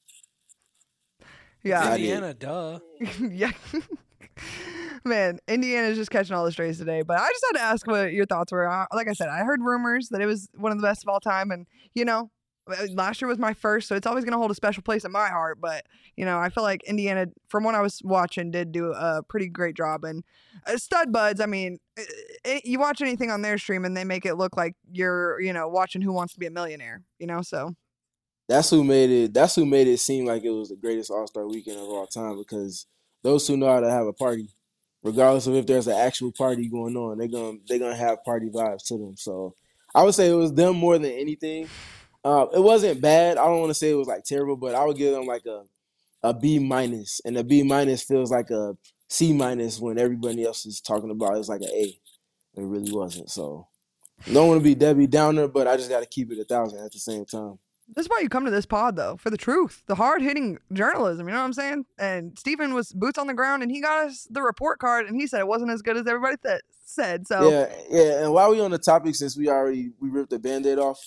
Yeah. Indiana, duh. Yeah. Man, Indiana's just catching all the strays today. But I just had to ask what your thoughts were. Like I said, I heard rumors that it was one of the best of all time. And, last year was my first, so it's always going to hold a special place in my heart. But, I feel like Indiana, from what I was watching, did do a pretty great job. And Stud Buds, I mean, you watch anything on their stream and they make it look like you're, watching Who Wants to Be a Millionaire, so. That's who made it seem like it was the greatest All-Star weekend of all time, because those who know how to have a party, regardless of if there's an actual party going on, they're gonna have party vibes to them. So I would say it was them more than anything. It wasn't bad. I don't want to say it was like terrible, but I would give them like a B minus, and a B minus feels like a C minus when everybody else is talking about it's like an A. It really wasn't. So don't want to be Debbie Downer, but I just got to keep it 1,000 at the same time. This is why you come to this pod, though, for the truth, the hard-hitting journalism, you know what I'm saying? And Stephen was boots on the ground, and he got us the report card, and he said it wasn't as good as everybody said. So yeah. And while we on the topic, since we ripped the Band-Aid off,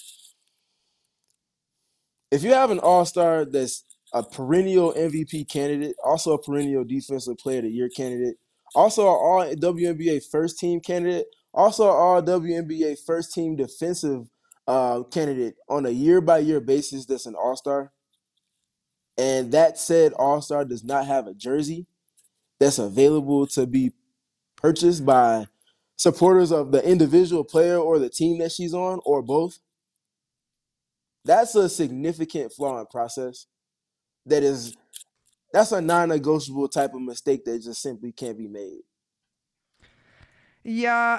if you have an All-Star that's a perennial MVP candidate, also a perennial Defensive Player of the Year candidate, also an All-WNBA first-team candidate, also an All-WNBA first-team defensive candidate on a year-by-year basis that's an All-Star, and that said All-Star does not have a jersey that's available to be purchased by supporters of the individual player or the team that she's on, or both, that's a significant flaw in process. That's a non-negotiable type of mistake that just simply can't be made. Yeah,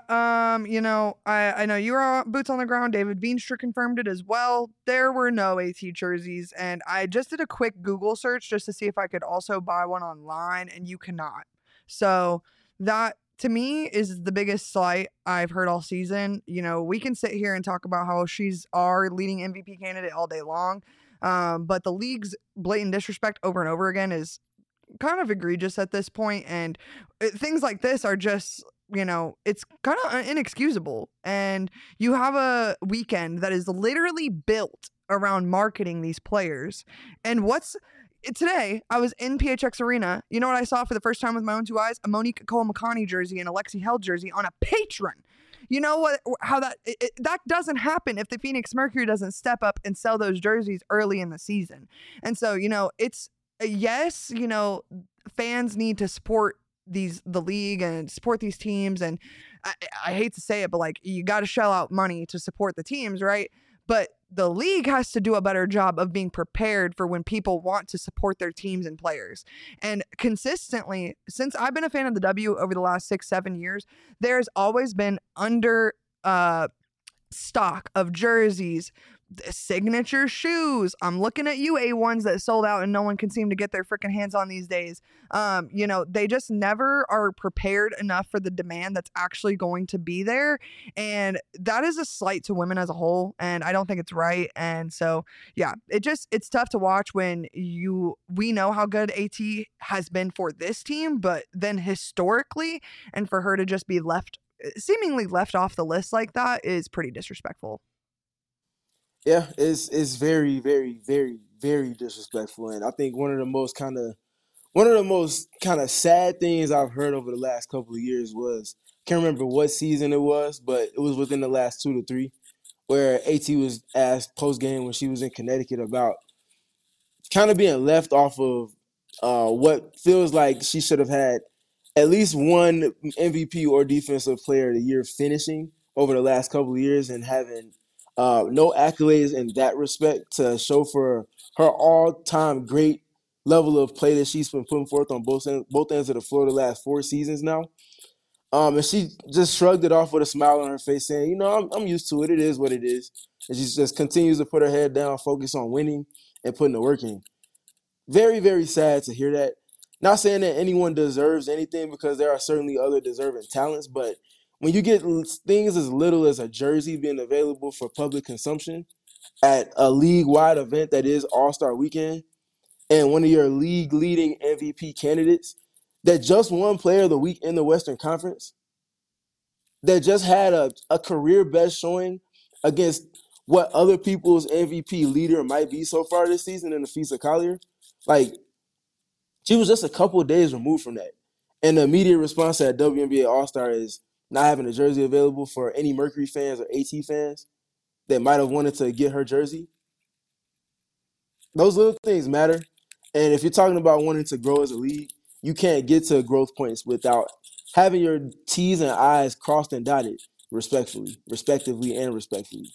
I know you were boots on the ground. David Veenstra confirmed it as well. There were no AT jerseys, and I just did a quick Google search just to see if I could also buy one online, and you cannot. So that to me is the biggest slight I've heard all season. We can sit here and talk about how she's our leading MVP candidate all day long, but the league's blatant disrespect over and over again is kind of egregious at this point, and things like this are just it's kind of inexcusable. And you have a weekend that is literally built around marketing these players. And today I was in PHX Arena. You know what I saw for the first time with my own two eyes? A Monique Cole-McConney jersey and a Lexi Held jersey on a patron. You know what? How that doesn't happen if the Phoenix Mercury doesn't step up and sell those jerseys early in the season. And so it's yes, fans need to support the league and support these teams, and I hate to say it, but like, you got to shell out money to support the teams, right? But the league has to do a better job of being prepared for when people want to support their teams and players. And consistently, since I've been a fan of the W over the last 6-7 years, there's always been under stock of jerseys, signature shoes. I'm looking at you, A1s that sold out and no one can seem to get their freaking hands on these days. They just never are prepared enough for the demand that's actually going to be there. And that is a slight to women as a whole. And I don't think it's right. And so, yeah, it's tough to watch when we know how good AT has been for this team, but then historically, and for her to just be seemingly left off the list like that is pretty disrespectful. Yeah, it's very, very, very, very disrespectful, and I think one of the most kind of sad things I've heard over the last couple of years was, can't remember what season it was, but it was within the last 2 to 3, where AT was asked post game when she was in Connecticut about kind of being left off of what feels like she should have had at least one MVP or Defensive Player of the Year finishing over the last couple of years, and having no accolades in that respect to show for her all-time great level of play that she's been putting forth on both ends of the floor the last 4 seasons now. And she just shrugged it off with a smile on her face, saying, I'm used to it. It is what it is. And she just continues to put her head down, focus on winning and putting the work in. Very, very sad to hear that. Not saying that anyone deserves anything, because there are certainly other deserving talents, but when you get things as little as a jersey being available for public consumption at a league-wide event that is All-Star Weekend, and one of your league-leading MVP candidates that just won Player of the Week in the Western Conference, that just had a career best showing against what other people's MVP leader might be so far this season in Afisa Collier, like, she was just a couple of days removed from that. And the immediate response to that WNBA All-Star is not having a jersey available for any Mercury fans or AT fans that might have wanted to get her jersey. Those little things matter. And if you're talking about wanting to grow as a league, you can't get to growth points without having your T's and I's crossed and dotted respectively and respectfully.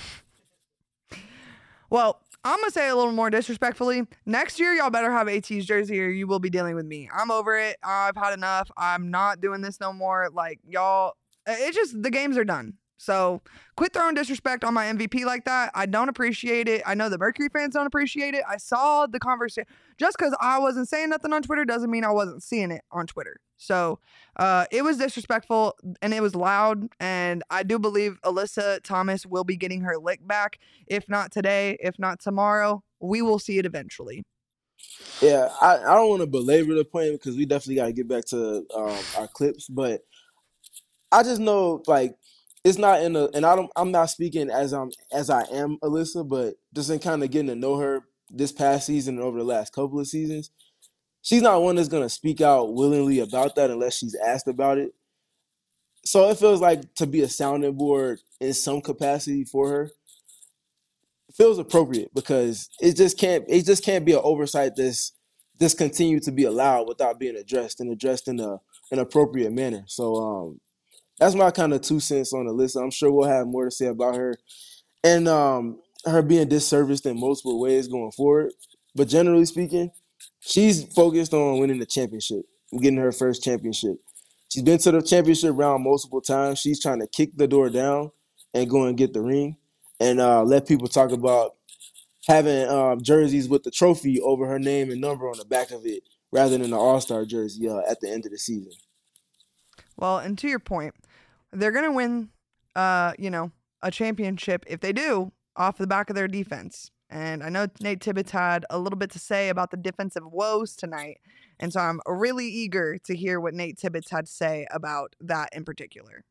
Well, I'm going to say a little more disrespectfully. Next year, y'all better have AT's jersey or you will be dealing with me. I'm over it. I've had enough. I'm not doing this no more. Like, y'all, it's just, the games are done. So quit throwing disrespect on my MVP like that. I don't appreciate it. I know the Mercury fans don't appreciate it. I saw the conversation. Just because I wasn't saying nothing on Twitter doesn't mean I wasn't seeing it on Twitter. So it was disrespectful and it was loud. And I do believe Alyssa Thomas will be getting her lick back. If not today, if not tomorrow, we will see it eventually. Yeah, I don't want to belabor the point because we definitely got to get back to our clips. But I just know, like, it's not in and I'm not speaking as I am Alyssa, but just in kind of getting to know her this past season and over the last couple of seasons, she's not one that's going to speak out willingly about that unless she's asked about it. So it feels like to be a sounding board in some capacity for her feels appropriate, because it just can't be an oversight this continue to be allowed without being addressed in an appropriate manner. So that's my kind of 2 cents on the list. I'm sure we'll have more to say about her and her being disserviced in multiple ways going forward. But generally speaking, she's focused on winning the championship, getting her first championship. She's been to the championship round multiple times. She's trying to kick the door down and go and get the ring and let people talk about having jerseys with the trophy over her name and number on the back of it rather than the All-Star jersey at the end of the season. Well, and to your point, they're going to win, a championship if they do off the back of their defense. And I know Nate Tibbetts had a little bit to say about the defensive woes tonight. And so I'm really eager to hear what Nate Tibbetts had to say about that in particular.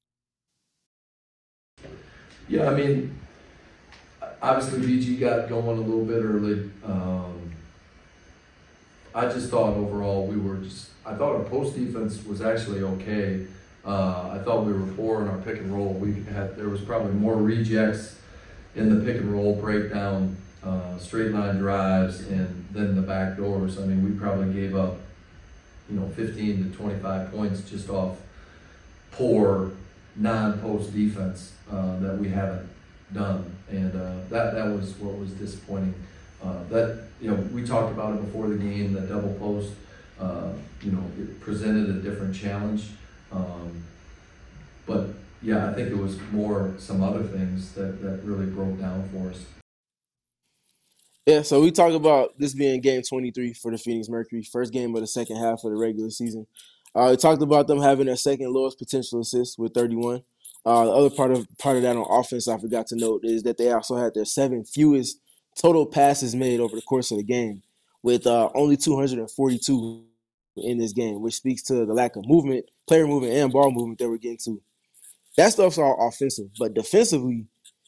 Yeah, I mean, obviously BG got going a little bit early. I just thought overall I thought our post defense was actually okay. I thought we were poor in our pick and roll. There was probably more rejects in the pick and roll breakdown, straight line drives, and then the back doors. I mean, we probably gave up, 15 to 25 points just off poor non-post defense that we haven't done, and that was what was disappointing. We talked about it before the game. The double post, it presented a different challenge. But yeah, I think it was more some other things that really broke down for us. Yeah, so we talk about this being game 23 for the Phoenix Mercury, first game of the second half of the regular season. We talked about them having their second lowest potential assist with 31. The other part of that on offense I forgot to note is that they also had their 7th fewest total passes made over the course of the game, with only 242 in this game, which speaks to the lack of movement, player movement, and ball movement that we're getting to. That stuff's all offensive, but defensively,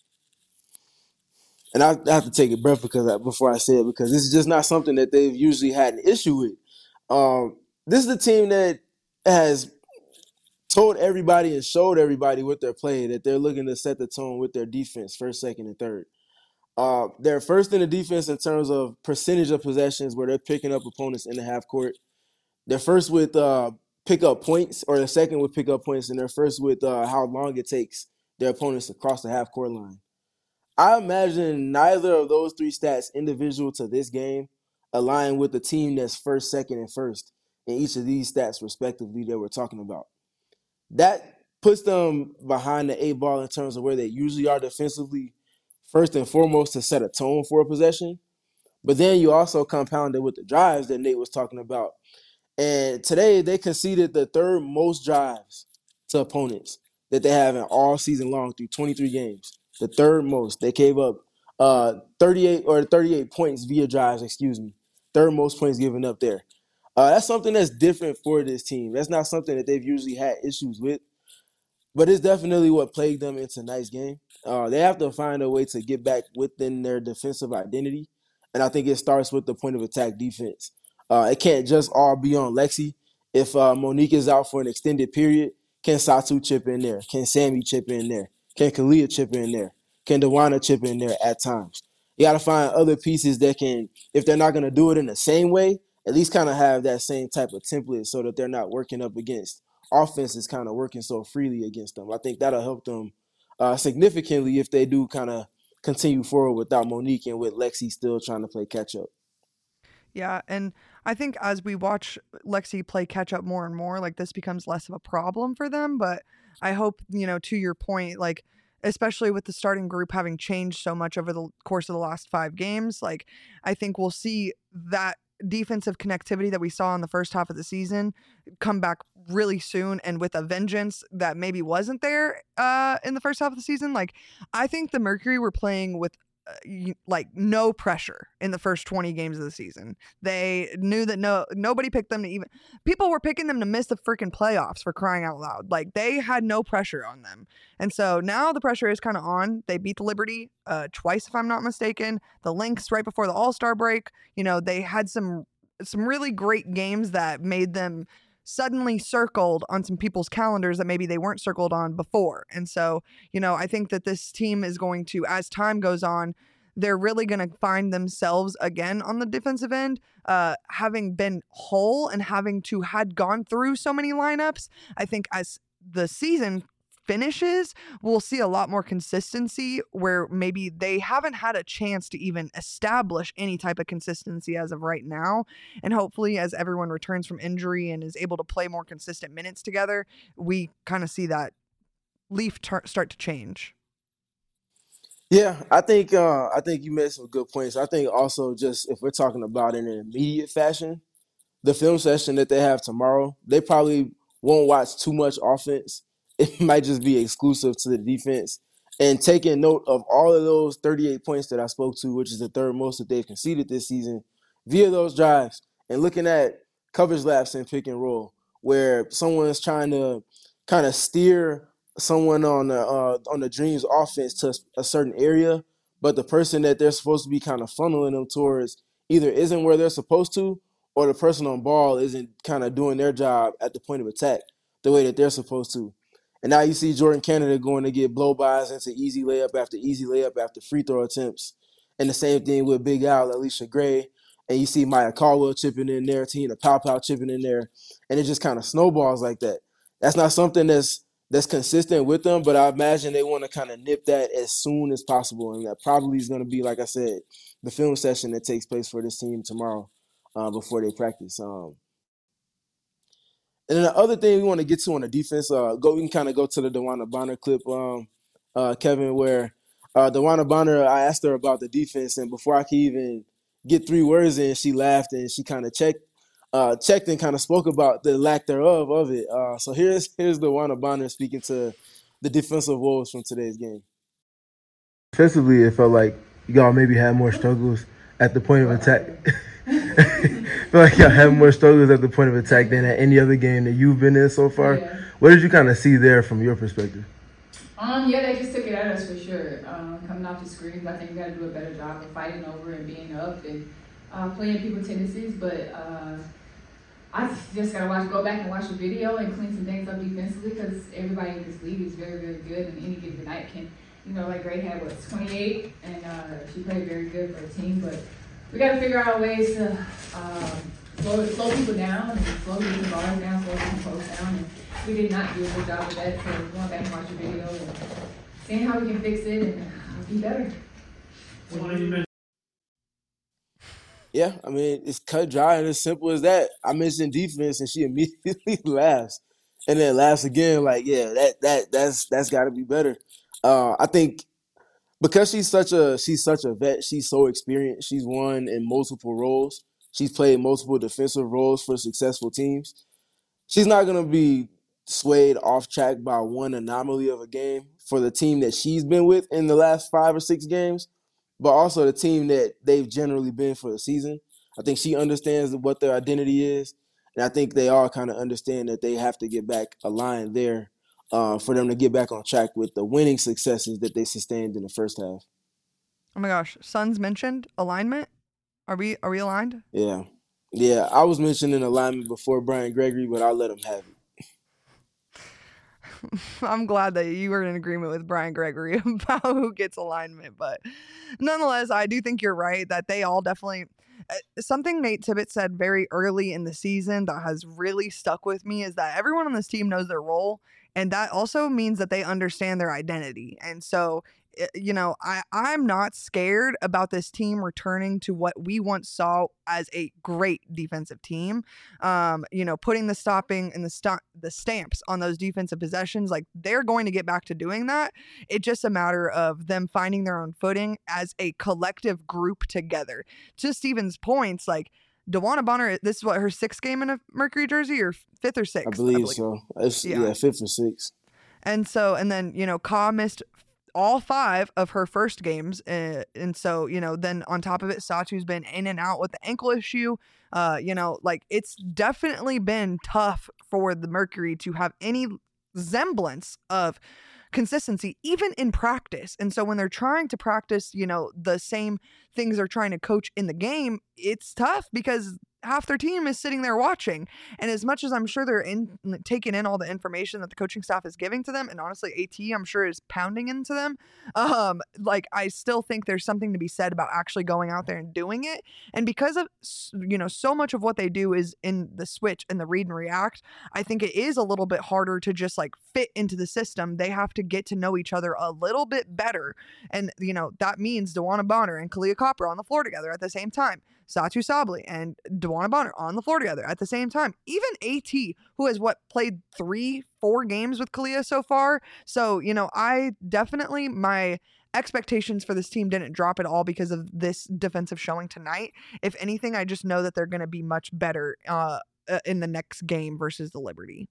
and I have to take a breath before I say it, because this is just not something that they've usually had an issue with. This is the team that has told everybody and showed everybody with their play that they're looking to set the tone with their defense, first, second, and third. They're first in the defense in terms of percentage of possessions where they're picking up opponents in the half court. They're first with pick up points, or they're second with pick up points, and they're first with how long it takes their opponents to cross the half court line. I imagine neither of those 3 stats individual to this game align with the team that's first, second, and first in each of these stats respectively that we're talking about. That puts them behind the 8 ball in terms of where they usually are defensively, first and foremost to set a tone for a possession. But then you also compound it with the drives that Nate was talking about. And today they conceded the 3rd most drives to opponents that they have in all season long through 23 games. The 3rd most. They gave up 38 points via drives, 3rd most points given up there. That's something that's different for this team. That's not something that they've usually had issues with. But it's definitely what plagued them in tonight's game. They have to find a way to get back within their defensive identity. And I think it starts with the point of attack defense. It can't just all be on Lexi. If Monique is out for an extended period, can Satu chip in there? Can Sammy chip in there? Can Kalia chip in there? Can Dewana chip in there at times? You got to find other pieces that can, if they're not going to do it in the same way, at least kind of have that same type of template so that they're not working up against offenses kind of working so freely against them. I think that'll help them significantly if they do kind of continue forward without Monique and with Lexi still trying to play catch up. Yeah, and I think as we watch Lexi play catch up more and more, like this becomes less of a problem for them. But I hope, to your point, like especially with the starting group having changed so much over the course of the last 5 games, like I think we'll see that defensive connectivity that we saw in the first half of the season come back really soon and with a vengeance that maybe wasn't there in the first half of the season. Like I think the Mercury were playing with no pressure in the first 20 games of the season. They knew that nobody picked them to even, people were picking them to miss the freaking playoffs, for crying out loud. Like they had no pressure on them. And so now the pressure is kind of on. They beat the Liberty twice, if I'm not mistaken. The Lynx right before the All-Star break. They had some really great games that made them suddenly circled on some people's calendars that maybe they weren't circled on before. And so, I think that this team is going to, as time goes on, they're really going to find themselves again on the defensive end, having been whole and having to had gone through so many lineups. I think as the season finishes, we'll see a lot more consistency where maybe they haven't had a chance to even establish any type of consistency as of right now. And hopefully as everyone returns from injury and is able to play more consistent minutes together, we kind of see that leaf start to change. Yeah, I think you made some good points. I think also just if we're talking about in an immediate fashion, the film session that they have tomorrow, they probably won't watch too much offense. It might just be exclusive to the defense. And taking note of all of those 38 points that I spoke to, which is the third most that they've conceded this season, via those drives, and looking at coverage laps and pick and roll, where someone's trying to kind of steer someone on the Dreams offense to a certain area, but the person that they're supposed to be kind of funneling them towards either isn't where they're supposed to, or the person on ball isn't kind of doing their job at the point of attack the way that they're supposed to. And now you see Jordan Canada going to get blow-bys into easy layup after free throw attempts. And the same thing with Big Al, Alicia Gray. And you see Maya Caldwell chipping in there, Tina Pow chipping in there. And it just kind of snowballs like that. That's not something that's consistent with them, but I imagine they want to kind of nip that as soon as possible. And that probably is going to be, like I said, the film session that takes place for this team tomorrow before they practice. And then the other thing we want to get to on the defense, we can kind of go to the DeWanna Bonner clip, Kevin, where DeWanna Bonner, I asked her about the defense, and before I could even get 3 words in, she laughed and she kind of checked and kind of spoke about the lack thereof of it. So here's DeWanna Bonner speaking to the defensive woes from today's game. Defensively, it felt like y'all maybe had more struggles at the point of attack. I feel like y'all have more struggles at the point of attack than at any other game that you've been in so far. Yeah. What did you kind of see there from your perspective? Yeah, they just took it at us for sure. Coming off the screens, I think we got to do a better job of fighting over and being up and playing people tendencies. But I just got to go back and watch the video and clean some things up defensively because everybody in this league is very, very good, and any given night can, like Gray had, 28, and she played very good for the team. But we got to figure out ways to slow people down and slow people's guards down, slow people's posts down. And we did not do a good job of that. So we're going back and watch the video and seeing how we can fix it and be better. Yeah, I mean, it's cut dry and as simple as that. I mentioned defense and she immediately laughs. And then laughs again, like, yeah, that's got to be better. I think because she's such a vet, she's so experienced. She's won in multiple roles. She's played multiple defensive roles for successful teams. She's not going to be swayed off track by one anomaly of a game for the team that she's been with in the last 5 or 6 games, but also the team that they've generally been for the season. I think she understands what their identity is, and I think they all kind of understand that they have to get back aligned there for them to get back on track with the winning successes that they sustained in the first half. Oh my gosh, Suns mentioned alignment. Are we aligned? Yeah. I was mentioning alignment before Brian Gregory, but I'll let him have it. I'm glad that you were in agreement with Brian Gregory about who gets alignment, but nonetheless, I do think you're right that they all definitely. Something Nate Tibbetts said very early in the season that has really stuck with me is that everyone on this team knows their role, and that also means that they understand their identity. And so, I'm not scared about this team returning to what we once saw as a great defensive team. Putting the stopping and the stamps on those defensive possessions, like they're going to get back to doing that. It's just a matter of them finding their own footing as a collective group together. To Steven's points, like DeWanna Bonner, this is what, her 6th game in a Mercury jersey, or 5th or 6th? I believe so. It's, 5th or 6th. And then, Ka missed all 5 of her first games. And so, then on top of it, Satu's been in and out with the ankle issue. It's definitely been tough for the Mercury to have any semblance of consistency, even in practice. And so when they're trying to practice, the same things they're trying to coach in the game, it's tough because half their team is sitting there watching. And as much as I'm sure they're taking in all the information that the coaching staff is giving to them, and honestly, AT, I'm sure is pounding into them. Like, I still think there's something to be said about actually going out there and doing it. And because of, so much of what they do is in the switch and the read and react, I think it is a little bit harder to just like fit into the system. They have to get to know each other a little bit better. And, that means DeWanna Bonner and Kalia Copper on the floor together at the same time. Satu Sabli and DeWanna Bonner on the floor together at the same time. Even AT, who has played 3-4 games with Kalia so far. So, I definitely, my expectations for this team didn't drop at all because of this defensive showing tonight. If anything, I just know that they're going to be much better in the next game versus the Liberty.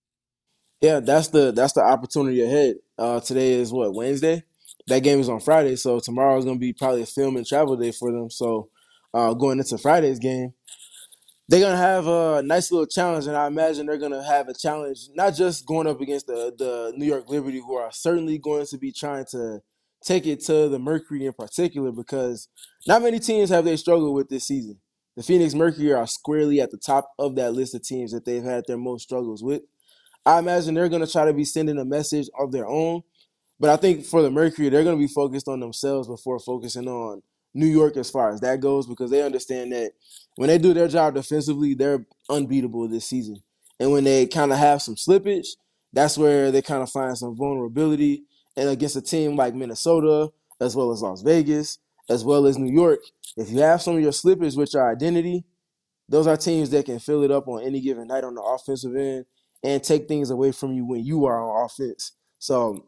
Yeah, that's the opportunity ahead. Today is what, Wednesday? That game is on Friday, so tomorrow is going to be probably a film and travel day for them. So going into Friday's game, they're going to have a nice little challenge, and I imagine they're going to have a challenge not just going up against the New York Liberty, who are certainly going to be trying to take it to the Mercury in particular, because not many teams have they struggled with this season. The Phoenix Mercury are squarely at the top of that list of teams that they've had their most struggles with. I imagine they're going to try to be sending a message of their own. But I think for the Mercury, they're going to be focused on themselves before focusing on New York as far as that goes, because they understand that when they do their job defensively, they're unbeatable this season. And when they kind of have some slippage, that's where they kind of find some vulnerability. And against a team like Minnesota, as well as Las Vegas, as well as New York, if you have some of your slippage with your identity, those are teams that can fill it up on any given night on the offensive end and take things away from you when you are on offense. So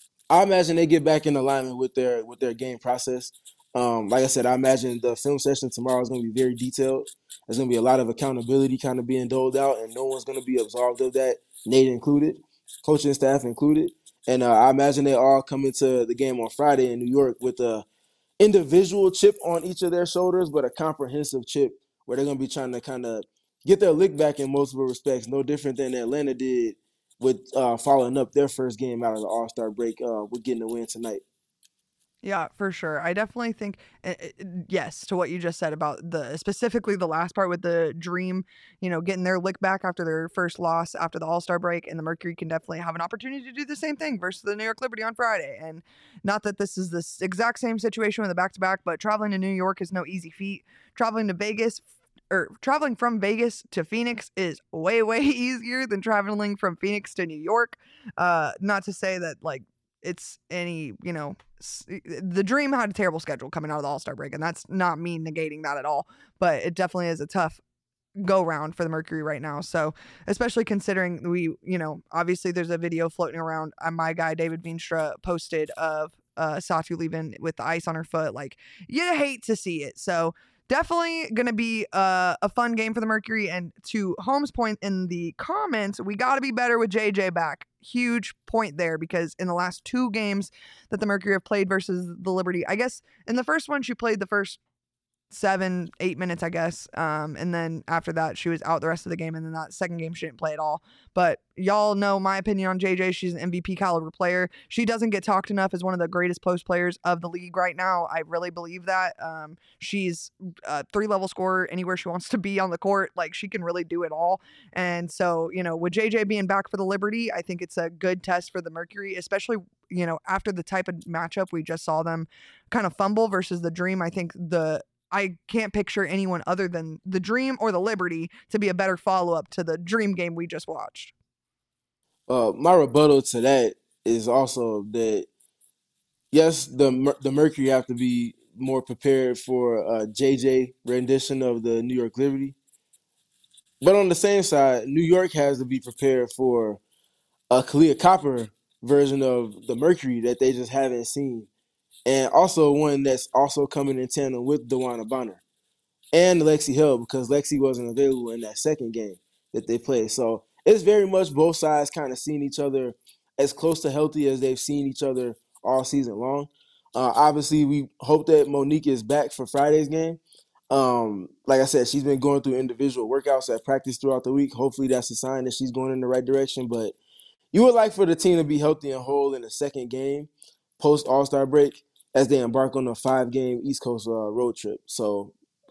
I imagine they get back in alignment with their game process. Like I said, I imagine the film session tomorrow is going to be very detailed. There's going to be a lot of accountability kind of being doled out, and no one's going to be absolved of that, Nate included, coaching staff included. And I imagine they all come into the game on Friday in New York with a individual chip on each of their shoulders, but a comprehensive chip where they're going to be trying to kind of get their lick back in multiple respects, no different than Atlanta did with following up their first game out of the All-Star break with getting a win tonight. Yeah, for sure. I definitely think, yes, to what you just said about specifically the last part with the Dream, getting their lick back after their first loss after the All-Star break, and the Mercury can definitely have an opportunity to do the same thing versus the New York Liberty on Friday. And not that this is the exact same situation with the back-to-back, but traveling to New York is no easy feat. Traveling from Vegas to Phoenix is way, way easier than traveling from Phoenix to New York. Not to say that, it's any, the Dream had a terrible schedule coming out of the All-Star break, and that's not me negating that at all, but it definitely is a tough go round for the Mercury right now. So especially considering we, obviously there's a video floating around. My guy David Veenstra posted of Satu leaving with the ice on her foot. Like, you hate to see it. So definitely going to be a fun game for the Mercury. And to Holmes' point in the comments, we got to be better with JJ back. Huge point there, because in the last 2 games that the Mercury have played versus the Liberty, I guess in the first one, she played the first 7-8 minutes, I guess. And then after that, she was out the rest of the game. And then that second game, she didn't play at all. But y'all know my opinion on JJ. She's an MVP caliber player. She doesn't get talked enough as one of the greatest post players of the league right now. I really believe that. She's a 3-level scorer anywhere she wants to be on the court. Like, she can really do it all. And so, with JJ being back for the Liberty, I think it's a good test for the Mercury, especially, after the type of matchup we just saw them kind of fumble versus the Dream. I think I can't picture anyone other than the Dream or the Liberty to be a better follow-up to the Dream game we just watched. My rebuttal to that is also that, yes, the Mercury have to be more prepared for a JJ rendition of the New York Liberty. But on the same side, New York has to be prepared for a Kalia Copper version of the Mercury that they just haven't seen. And also one that's also coming in tandem with DeWanna Bonner and Lexi Hill, because Lexi wasn't available in that second game that they played. So it's very much both sides kind of seeing each other as close to healthy as they've seen each other all season long. Obviously, we hope that Monique is back for Friday's game. Like I said, she's been going through individual workouts at practice throughout the week. Hopefully that's a sign that she's going in the right direction. But you would like for the team to be healthy and whole in the second game post All-Star break as they embark on a 5-game East Coast road trip. So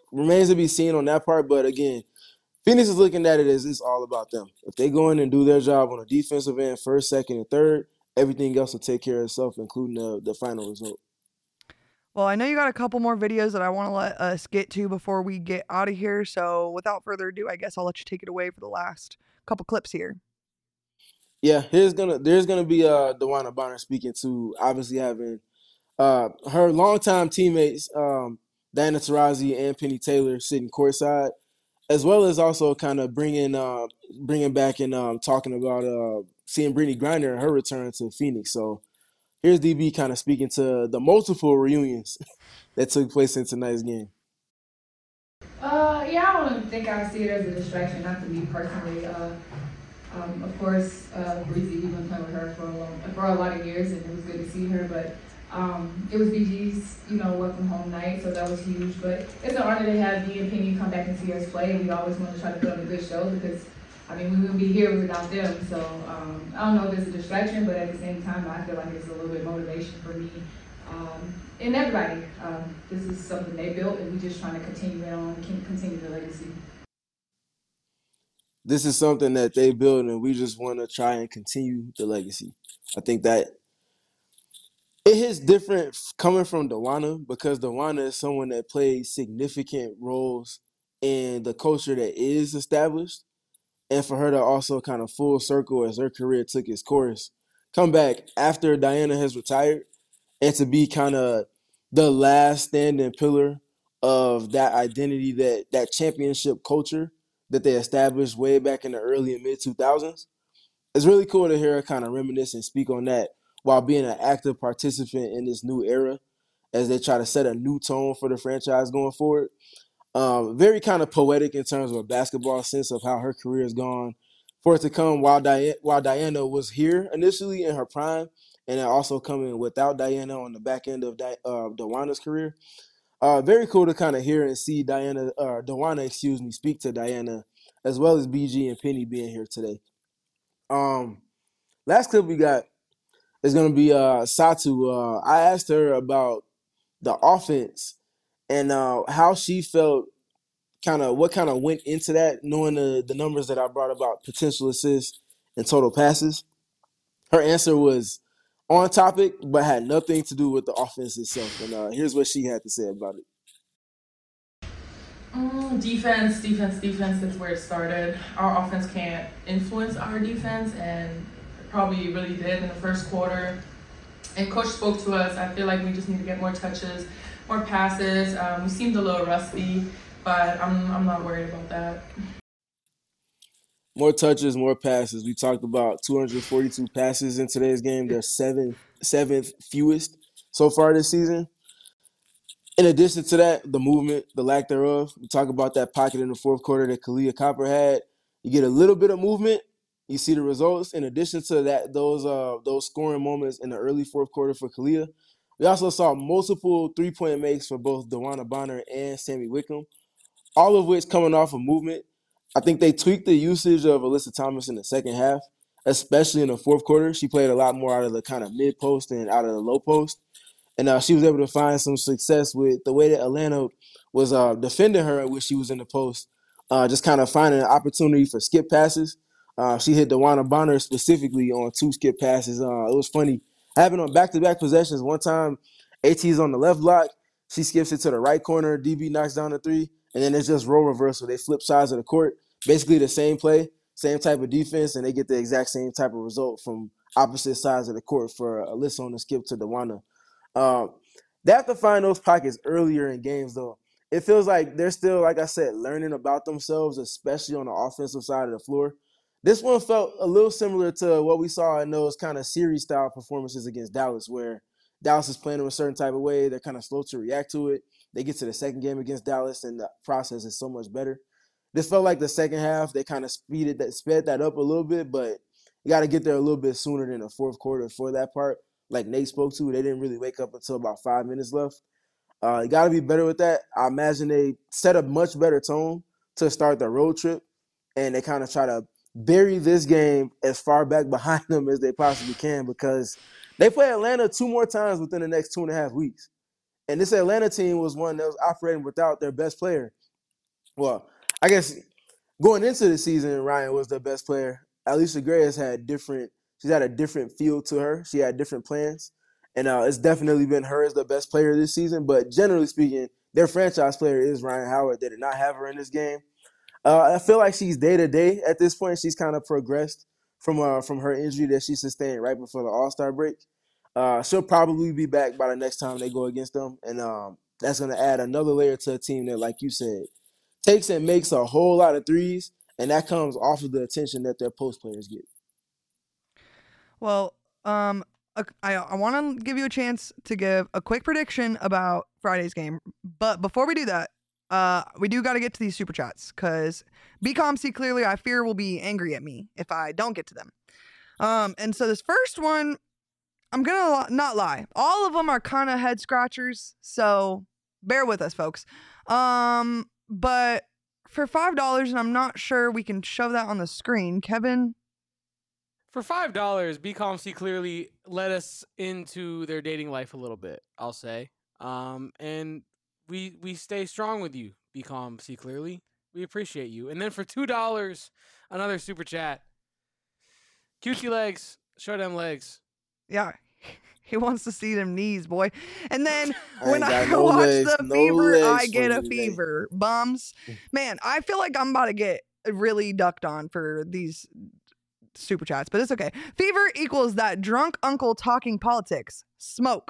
remains to be seen on that part. But again, Phoenix is looking at it as it's all about them. If they go in and do their job on the defensive end, first, second, and third, everything else will take care of itself, including the final result. Well, I know you got a couple more videos that I want to let us get to before we get out of here. So without further ado, I guess I'll let you take it away for the last couple clips here. Yeah, there's gonna be DeWanna Bonner speaking to obviously having her longtime teammates Diana Taurasi and Penny Taylor sitting courtside, as well as also kind of bringing back and talking about seeing Brittany Griner and her return to Phoenix. So here's DB kind of speaking to the multiple reunions that took place in tonight's game. Yeah, I don't think I see it as a distraction, not to me personally. Of course, Breezy, we've been playing with her for a lot of years, and it was good to see her. But it was BG's, welcome home night, so that was huge. But it's an honor to have me and Penny come back and see us play, and we always want to try to put on a good show because, we wouldn't be here without them. So I don't know if it's a distraction, but at the same time, I feel like it's a little bit of motivation for me and everybody. This is something they built, and we're just trying to continue the legacy. This is something that they built, and we just want to try and continue the legacy. I think that it is different coming from DeWanna because DeWanna is someone that plays significant roles in the culture that is established. And for her to also kind of full circle as her career took its course, come back after Diana has retired, and to be kind of the last standing pillar of that identity, that championship culture that they established way back in the early and mid 2000s. It's really cool to hear her kind of reminisce and speak on that while being an active participant in this new era as they try to set a new tone for the franchise going forward. Very kind of poetic in terms of a basketball sense of how her career has gone for it to come while Diana was here initially in her prime, and then also coming without Diana on the back end of DeWanna's career. Very cool to kind of hear and see DeWanna, speak to Diana, as well as BG and Penny being here today. Last clip we got is going to be Satu. I asked her about the offense and how she felt, what kind of went into that, knowing the numbers that I brought about potential assists and total passes. Her answer was on topic, but had nothing to do with the offense itself. And here's what she had to say about it. Defense. That's where it started. Our offense can't influence our defense, and probably really did in the first quarter. And coach spoke to us. I feel like we just need to get more touches, more passes. We seemed a little rusty, but I'm not worried about that. More touches, more passes. We talked about 242 passes in today's game. They're seventh fewest so far this season. In addition to that, the movement, the lack thereof. We talk about that pocket in the fourth quarter that Kahleah Copper had. You get a little bit of movement, you see the results. In addition to that, those scoring moments in the early fourth quarter for Kahleah, we also saw multiple three-point makes for both DeWanna Bonner and Sammy Wickham, all of which coming off of movement. I think they tweaked the usage of Alyssa Thomas in the second half, especially in the fourth quarter. She played a lot more out of the kind of mid-post and out of the low post. And she was able to find some success with the way that Atlanta was defending her when she was in the post, just kind of finding an opportunity for skip passes. She hit DeWanna Bonner specifically on 2 skip passes. It was funny. Having on back-to-back possessions, one time AT's on the left block, she skips it to the right corner, DB knocks down the 3, and then it's just role reversal. They flip sides of the court, basically the same play, same type of defense, and they get the exact same type of result from opposite sides of the court for Alyssa on the skip to DeWanna. They have to find those pockets earlier in games, though. It feels like they're still, like I said, learning about themselves, especially on the offensive side of the floor. This one felt a little similar to what we saw in those kind of series-style performances against Dallas, where Dallas is playing in a certain type of way. They're kind of slow to react to it. They get to the second game against Dallas, and the process is so much better. This felt like the second half. They kind of sped that up a little bit, but you got to get there a little bit sooner than the fourth quarter for that part. Like Nate spoke to, they didn't really wake up until about 5 minutes left. You got to be better with that. I imagine they set a much better tone to start the road trip, and they kind of try to bury this game as far back behind them as they possibly can because they play Atlanta 2 more times within the next 2.5 weeks. And this Atlanta team was one that was operating without their best player. Well, I guess going into the season, Ryan was the best player. Alicia Gray has had she's had a different feel to her. She had different plans. And it's definitely been her as the best player this season. But generally speaking, their franchise player is Ryan Howard. They did not have her in this game. I feel like she's day to day at this point. She's kind of progressed from her injury that she sustained right before the All-Star break. She'll probably be back by the next time they go against them, and that's going to add another layer to a team that, like you said, takes and makes a whole lot of threes, and that comes off of the attention that their post players get. Well, I want to give you a chance to give a quick prediction about Friday's game, but before we do that, we do got to get to these super chats because BComC clearly I fear will be angry at me if I don't get to them. And so this first one, I'm gonna not lie, all of them are kind of head scratchers, so bear with us, folks. But for $5, and I'm not sure we can show that on the screen, Kevin. For $5, BComC clearly led us into their dating life a little bit, I'll say. And we stay strong with you, BComC clearly. We appreciate you. And then for $2, another super chat. Cutesy legs, show them legs. Yeah, he wants to see them knees, boy. And then I when ain't I got no watch legs, the no fever, legs I for get you a today. fever. Bums. Man, I feel like I'm about to get really ducked on for these super chats, but it's okay. Fever equals that drunk uncle talking politics. Smoke.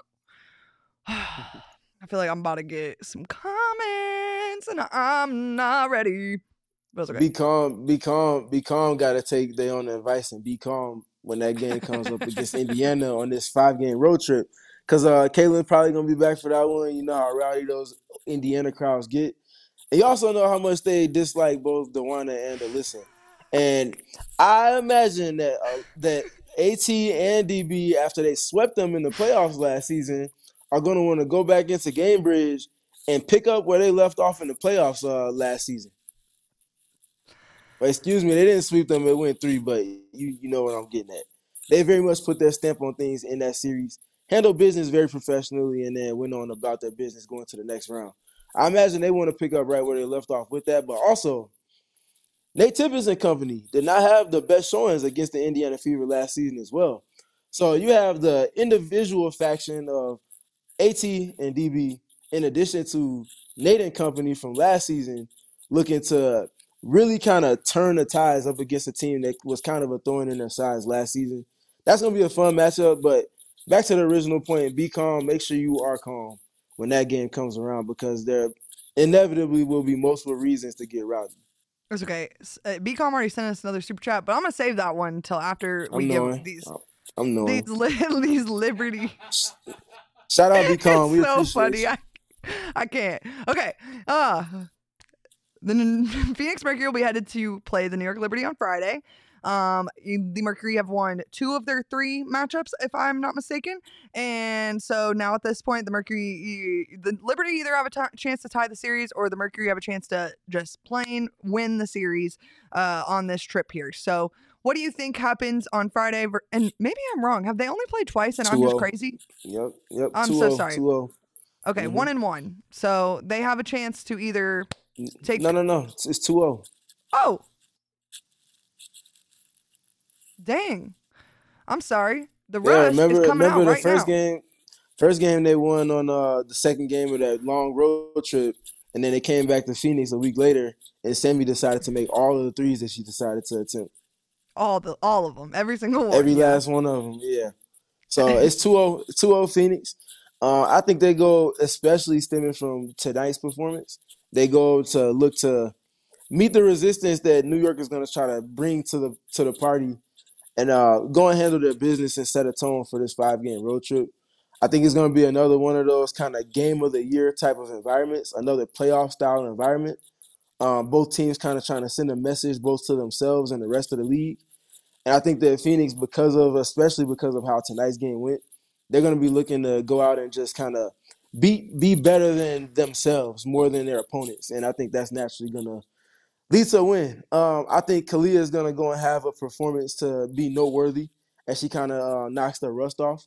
I feel like I'm about to get some comments and I'm not ready. But it's okay. Be calm. Got to take their own advice and be calm when that game comes up against Indiana on this 5-game road trip. Because Caitlin's probably going to be back for that one. You know how rowdy those Indiana crowds get. And you also know how much they dislike both DeWanna and Alyssa. And I imagine that AT and DB, after they swept them in the playoffs last season, are going to want to go back into Gamebridge and pick up where they left off in the playoffs last season. But excuse me, they didn't sweep them. It went 3, but you know what I'm getting at. They very much put their stamp on things in that series, handled business very professionally, and then went on about their business going to the next round. I imagine they want to pick up right where they left off with that, but also Nate Tibbetts and company did not have the best showings against the Indiana Fever last season as well. So you have the individual faction of AT and DB, in addition to Nate and company from last season, looking to really kind of turn the tides up against a team that was kind of a thorn in their sides last season. That's going to be a fun matchup, but back to the original point, be calm. Make sure you are calm when that game comes around because there inevitably will be multiple reasons to get rowdy. It's okay. BCom already sent us another super chat, but I'm going to save that one until after we give these Liberty. Shout out BCom. We so appreciate funny. You. I can't. Okay. The Phoenix Mercury will be headed to play the New York Liberty on Friday. The Mercury have won 2 of their 3 matchups, if I'm not mistaken. And so now at this point, the Liberty either have a chance to tie the series or the Mercury have a chance to just plain win the series on this trip here. So what do you think happens on Friday? And maybe I'm wrong. Have they only played twice and I'm just crazy? Yep. I'm so sorry. 2-0. Okay, 1-1. So they have a chance to either take... No. It's 2-0. Oh. Dang. I'm sorry. The rush is coming out right now. First game they won on the second game of that long road trip, and then they came back to Phoenix a week later, and Sammy decided to make all of the threes that she decided to attempt. All of them. Every single one. Every last one of them, yeah. So it's 2-0 Phoenix. I think they go, especially stemming from tonight's performance, they go to look to meet the resistance that New York is going to try to bring to the party and go and handle their business and set a tone for this 5-game road trip. I think it's going to be another one of those kind of game of the year type of environments, another playoff style environment. Both teams kind of trying to send a message both to themselves and the rest of the league. And I think that Phoenix, especially because of how tonight's game went, they're going to be looking to go out and just kind of be better than themselves more than their opponents. And I think that's naturally going to lead to a win. I think Kalia is going to go and have a performance to be noteworthy as she kind of knocks the rust off.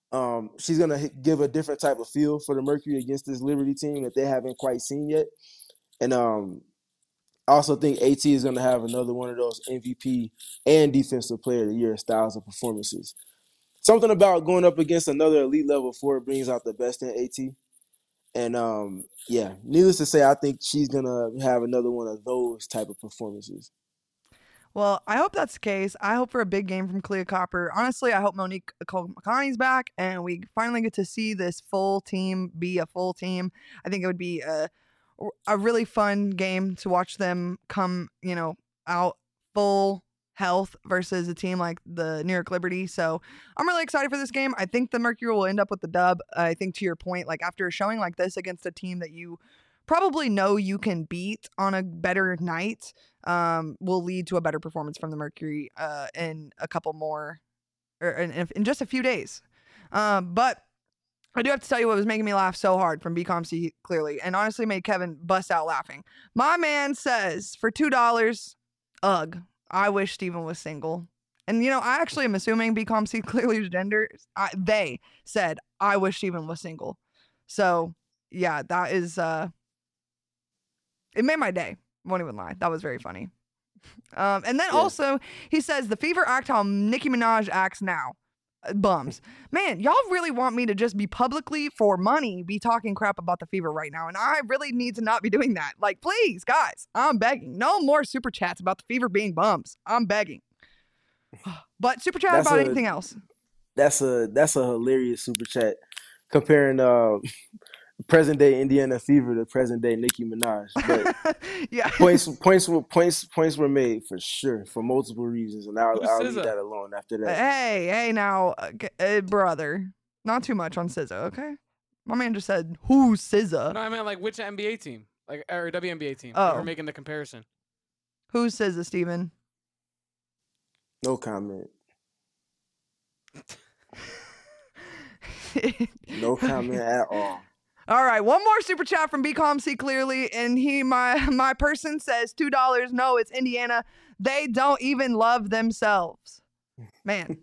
She's going to give a different type of feel for the Mercury against this Liberty team that they haven't quite seen yet. And I also think AT is going to have another one of those MVP and Defensive Player of the Year styles of performances. Something about going up against another elite level four brings out the best in AT. And, needless to say, I think she's going to have another one of those type of performances. Well, I hope that's the case. I hope for a big game from Kalia Copper. Honestly, I hope Monique Makani's back and we finally get to see this full team be a full team. I think it would be a really fun game to watch them come, out full health versus a team like the New York Liberty. So I'm really excited for this game. I think the Mercury will end up with the dub. I think to your point, like after a showing like this against a team that you probably know you can beat on a better night, will lead to a better performance from the Mercury in a couple more, or in just a few days. But I do have to tell you what was making me laugh so hard from BComC clearly, and honestly made Kevin bust out laughing. My man says for $2, ugh, I wish Steven was single. And I actually am assuming BComC clearly gender. They said I wish Steven was single. So yeah, that is it made my day. Won't even lie. That was very funny. And then also, he says, the Fever act how Nicki Minaj acts now. Bums. Man, y'all really want me to just be publicly, for money, be talking crap about the Fever right now. And I really need to not be doing that. Like, please, guys, I'm begging. No more super chats about the Fever being bums. I'm begging. But super chat about anything else. That's a hilarious super chat comparing present day Indiana Fever to present day Nicki Minaj. But yeah, points were made for sure for multiple reasons, and I'll leave that alone after that. Hey, now, brother, not too much on SZA, okay? My man just said, "Who's SZA?" No, I meant like which NBA team, or WNBA team. Oh, we're making the comparison. Who's SZA, Steven? No comment. No comment at all. All right, one more super chat from BComC clearly, and my person says $2. No, it's Indiana. They don't even love themselves. Man,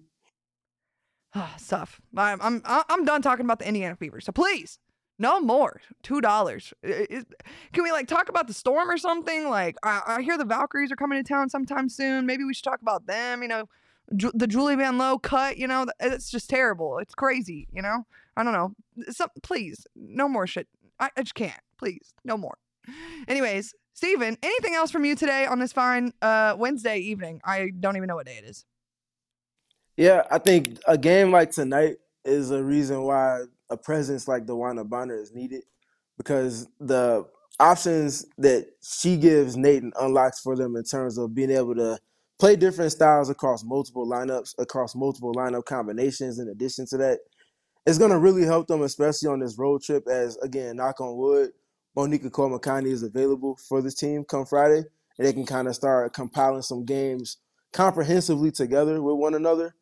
stuff. I'm done talking about the Indiana Fever. So please, no more. $2. Can we talk about the Storm or something? Like I hear the Valkyries are coming to town sometime soon. Maybe we should talk about them. The Julie Van Lowe cut. It's just terrible. It's crazy. I don't know. Please, no more shit. I just can't. Please, no more. Anyways, Steven, anything else from you today on this fine Wednesday evening? I don't even know what day it is. Yeah, I think a game like tonight is a reason why a presence like DeWanna Bonner is needed, because the options that she gives Nate unlocks for them in terms of being able to play different styles across multiple lineups, across multiple lineup combinations. In addition to that, it's going to really help them, especially on this road trip, as, again, knock on wood, Monique Makani is available for this team come Friday, and they can kind of start compiling some games comprehensively together with one another.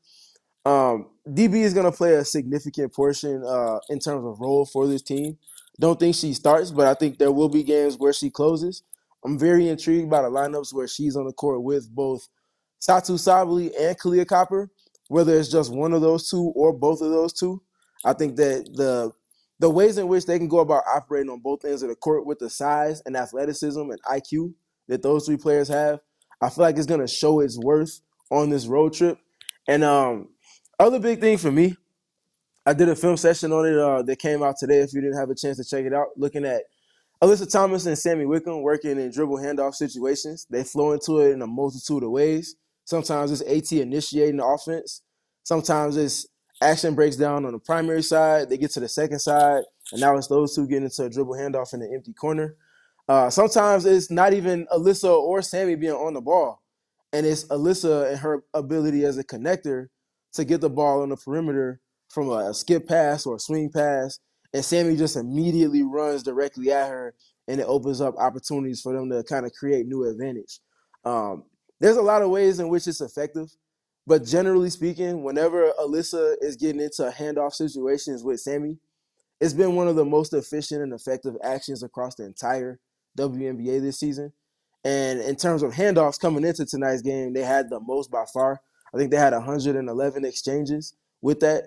DB is going to play a significant portion in terms of role for this team. Don't think she starts, but I think there will be games where she closes. I'm very intrigued by the lineups where she's on the court with both Satu Sabally and Kalia Copper, whether it's just one of those two or both of those two. I think that the ways in which they can go about operating on both ends of the court with the size and athleticism and IQ that those three players have, I feel like it's going to show its worth on this road trip. And other big thing for me, I did a film session on it that came out today if you didn't have a chance to check it out, looking at Alyssa Thomas and Sammy Wickham working in dribble handoff situations. They flow into it in a multitude of ways. Sometimes it's AT initiating the offense. Sometimes it's action breaks down on the primary side. They get to the second side, and now it's those two getting into a dribble handoff in the empty corner. Sometimes it's not even Alyssa or Sammy being on the ball, and it's Alyssa and her ability as a connector to get the ball on the perimeter from a skip pass or a swing pass, and Sammy just immediately runs directly at her, and it opens up opportunities for them to kind of create new advantage. There's a lot of ways in which it's effective, but generally speaking, whenever Alyssa is getting into handoff situations with Sammy, it's been one of the most efficient and effective actions across the entire WNBA this season. And in terms of handoffs coming into tonight's game, they had the most by far. I think they had 111 exchanges with that.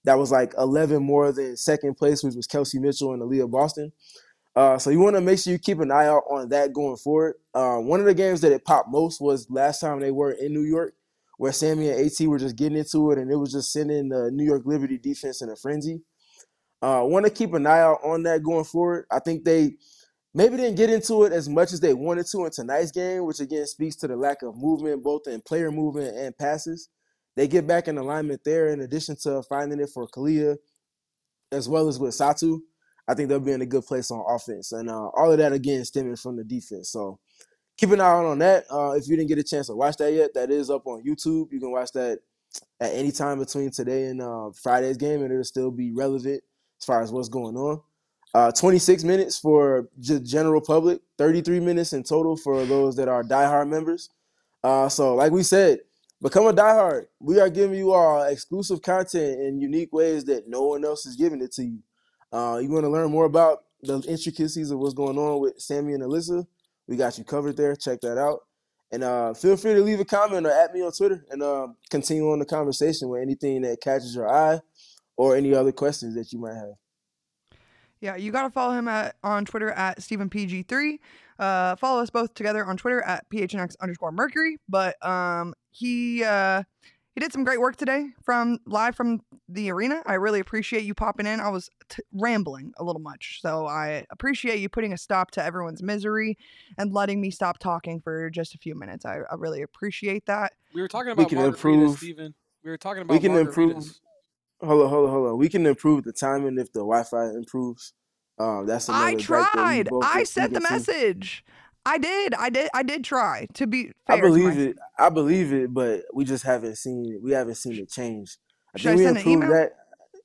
that was like 11 more than second place, which was Kelsey Mitchell and Aaliyah Boston. So you want to make sure you keep an eye out on that going forward. One of the games that it popped most was last time they were in New York, where Sammy and AT were just getting into it, and it was just sending the New York Liberty defense in a frenzy. Want to keep an eye out on that going forward. I think they maybe didn't get into it as much as they wanted to in tonight's game, which again speaks to the lack of movement, both in player movement and passes. They get back in alignment there in addition to finding it for Kalia as well as with Satu. I think they'll be in a good place on offense. And all of that, again, stemming from the defense. So keep an eye out on that. If you didn't get a chance to watch that yet, that is up on YouTube. You can watch that at any time between today and Friday's game, and it'll still be relevant as far as what's going on. 26 minutes for general public, 33 minutes in total for those that are diehard members. So like we said, become a diehard. We are giving you all exclusive content in unique ways that no one else is giving it to you. You want to learn more about the intricacies of what's going on with Sammy and Alyssa? We got you covered there. Check that out. And feel free to leave a comment or at me on Twitter and continue on the conversation with anything that catches your eye or any other questions that you might have. Yeah, you got to follow him on Twitter at StephenPG3. Follow us both together on Twitter at PHNX_Mercury. But he did some great work today live from the arena. I really appreciate you popping in. I was rambling a little much, so I appreciate you putting a stop to everyone's misery and letting me stop talking for just a few minutes. I really appreciate that. We were talking about margaritas, Stephen. We were talking about margaritas. Hold on. We can improve the timing if the Wi-Fi improves. That's another. I tried. I sent the message. I did try. To be fair, I believe it, but we just haven't seen it. We haven't seen it change. Should I send an email? That.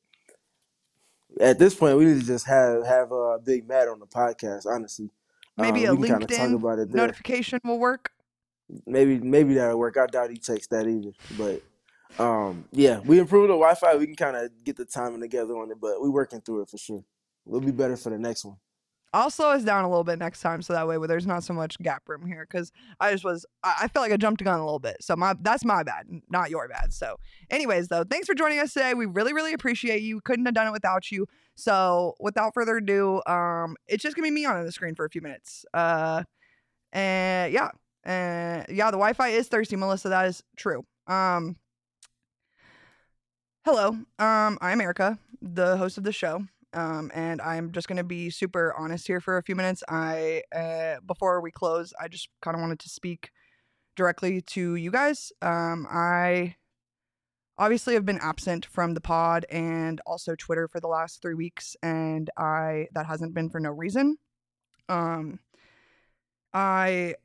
At this point, we need to just have Big Matt on the podcast. Honestly, maybe a LinkedIn notification will work. Maybe that'll work. I doubt he checks that either. But yeah, we improved the Wi-Fi. We can kind of get the timing together on it, but we're working through it for sure. We'll be better for the next one. I'll slow us down a little bit next time, so that way there's not so much gap room here. Because I felt like I jumped the gun a little bit, so that's my bad, not your bad. So, anyways, though, thanks for joining us today. We really, really appreciate you. Couldn't have done it without you. So, without further ado, it's just gonna be me on the screen for a few minutes. The Wi-Fi is thirsty, Melissa. That is true. Hello, I'm Erica, the host of the show. And I'm just going to be super honest here for a few minutes. Before we close, I just kind of wanted to speak directly to you guys. I obviously have been absent from the pod and also Twitter for the last 3 weeks, and that hasn't been for no reason. I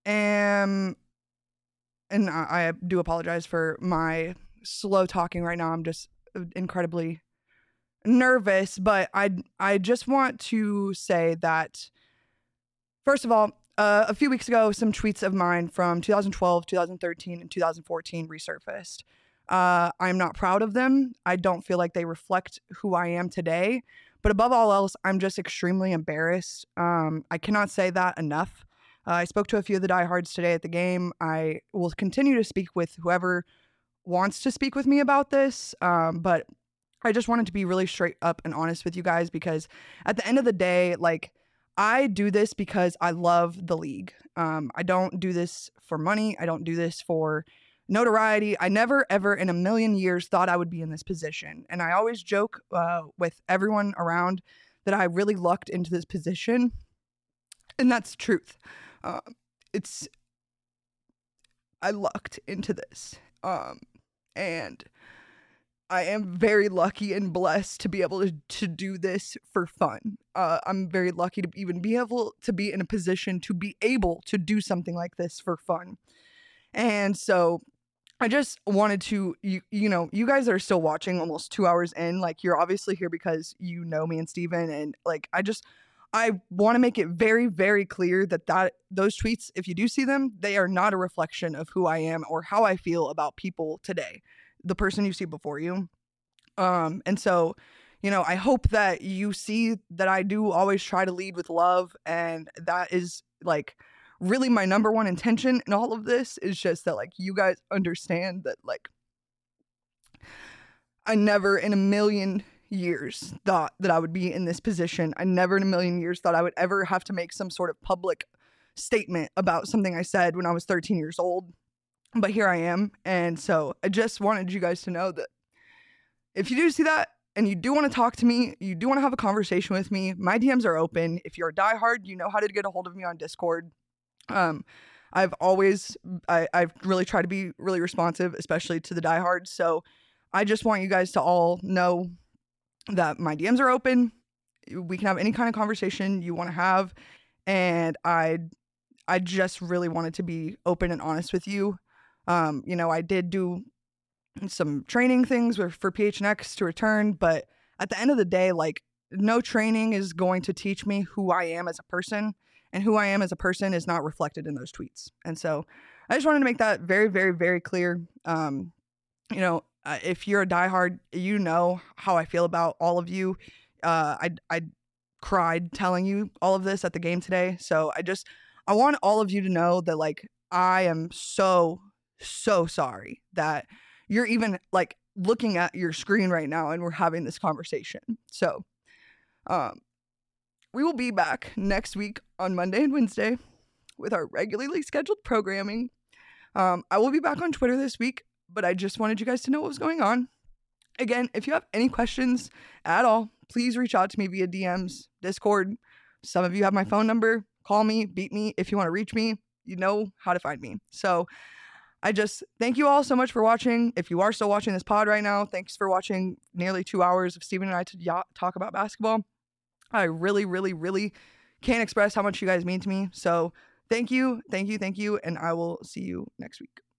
do apologize for my slow talking right now. I'm just incredibly nervous, but I just want to say that, first of all, a few weeks ago, some tweets of mine from 2012, 2013, and 2014 resurfaced. I'm not proud of them. I don't feel like they reflect who I am today. But above all else, I'm just extremely embarrassed. I cannot say that enough. I spoke to a few of the diehards today at the game. I will continue to speak with whoever wants to speak with me about this. But I just wanted to be really straight up and honest with you guys, because at the end of the day, like, I do this because I love the league. I don't do this for money. I don't do this for notoriety. I never, ever in a million years thought I would be in this position. And I always joke with everyone around that I really lucked into this position. And that's the truth. I lucked into this. And I am very lucky and blessed to be able to do this for fun. I'm very lucky to even be able to be in a position to be able to do something like this for fun. And so I just wanted to, you guys are still watching almost 2 hours in. Like, you're obviously here because you know me and Steven. And like, I want to make it very, very clear that those tweets, if you do see them, they are not a reflection of who I am or how I feel about people today. The person you see before you. And so, I hope that you see that I do always try to lead with love. And that is like really my number one intention in all of this, is just that, like, you guys understand that, like, I never in a million years thought that I would be in this position. I never in a million years thought I would ever have to make some sort of public statement about something I said when I was 13 years old. But here I am. And so I just wanted you guys to know that if you do see that and you do want to talk to me, you do want to have a conversation with me, my DMs are open. If you're a diehard, you know how to get a hold of me on Discord. I've really tried to be really responsive, especially to the diehards. So I just want you guys to all know that my DMs are open. We can have any kind of conversation you want to have. And I just really wanted to be open and honest with you. I did do some training things for PHNX to return, but at the end of the day, like, no training is going to teach me who I am as a person, and who I am as a person is not reflected in those tweets. And so I just wanted to make that very, very, very clear. If you're a diehard, you know how I feel about all of you. I cried telling you all of this at the game today. So I want all of you to know that, like, I am so, so sorry that you're even, like, looking at your screen right now and we're having this conversation. So, we will be back next week on Monday and Wednesday with our regularly scheduled programming. I will be back on Twitter this week, but I just wanted you guys to know what was going on. Again, if you have any questions at all, please reach out to me via DMs, Discord. Some of you have my phone number. Call me, beat me. If you want to reach me, you know how to find me. So I just thank you all so much for watching. If you are still watching this pod right now, thanks for watching nearly 2 hours of Steven and I to talk about basketball. I really, really, really can't express how much you guys mean to me. So thank you, and I will see you next week.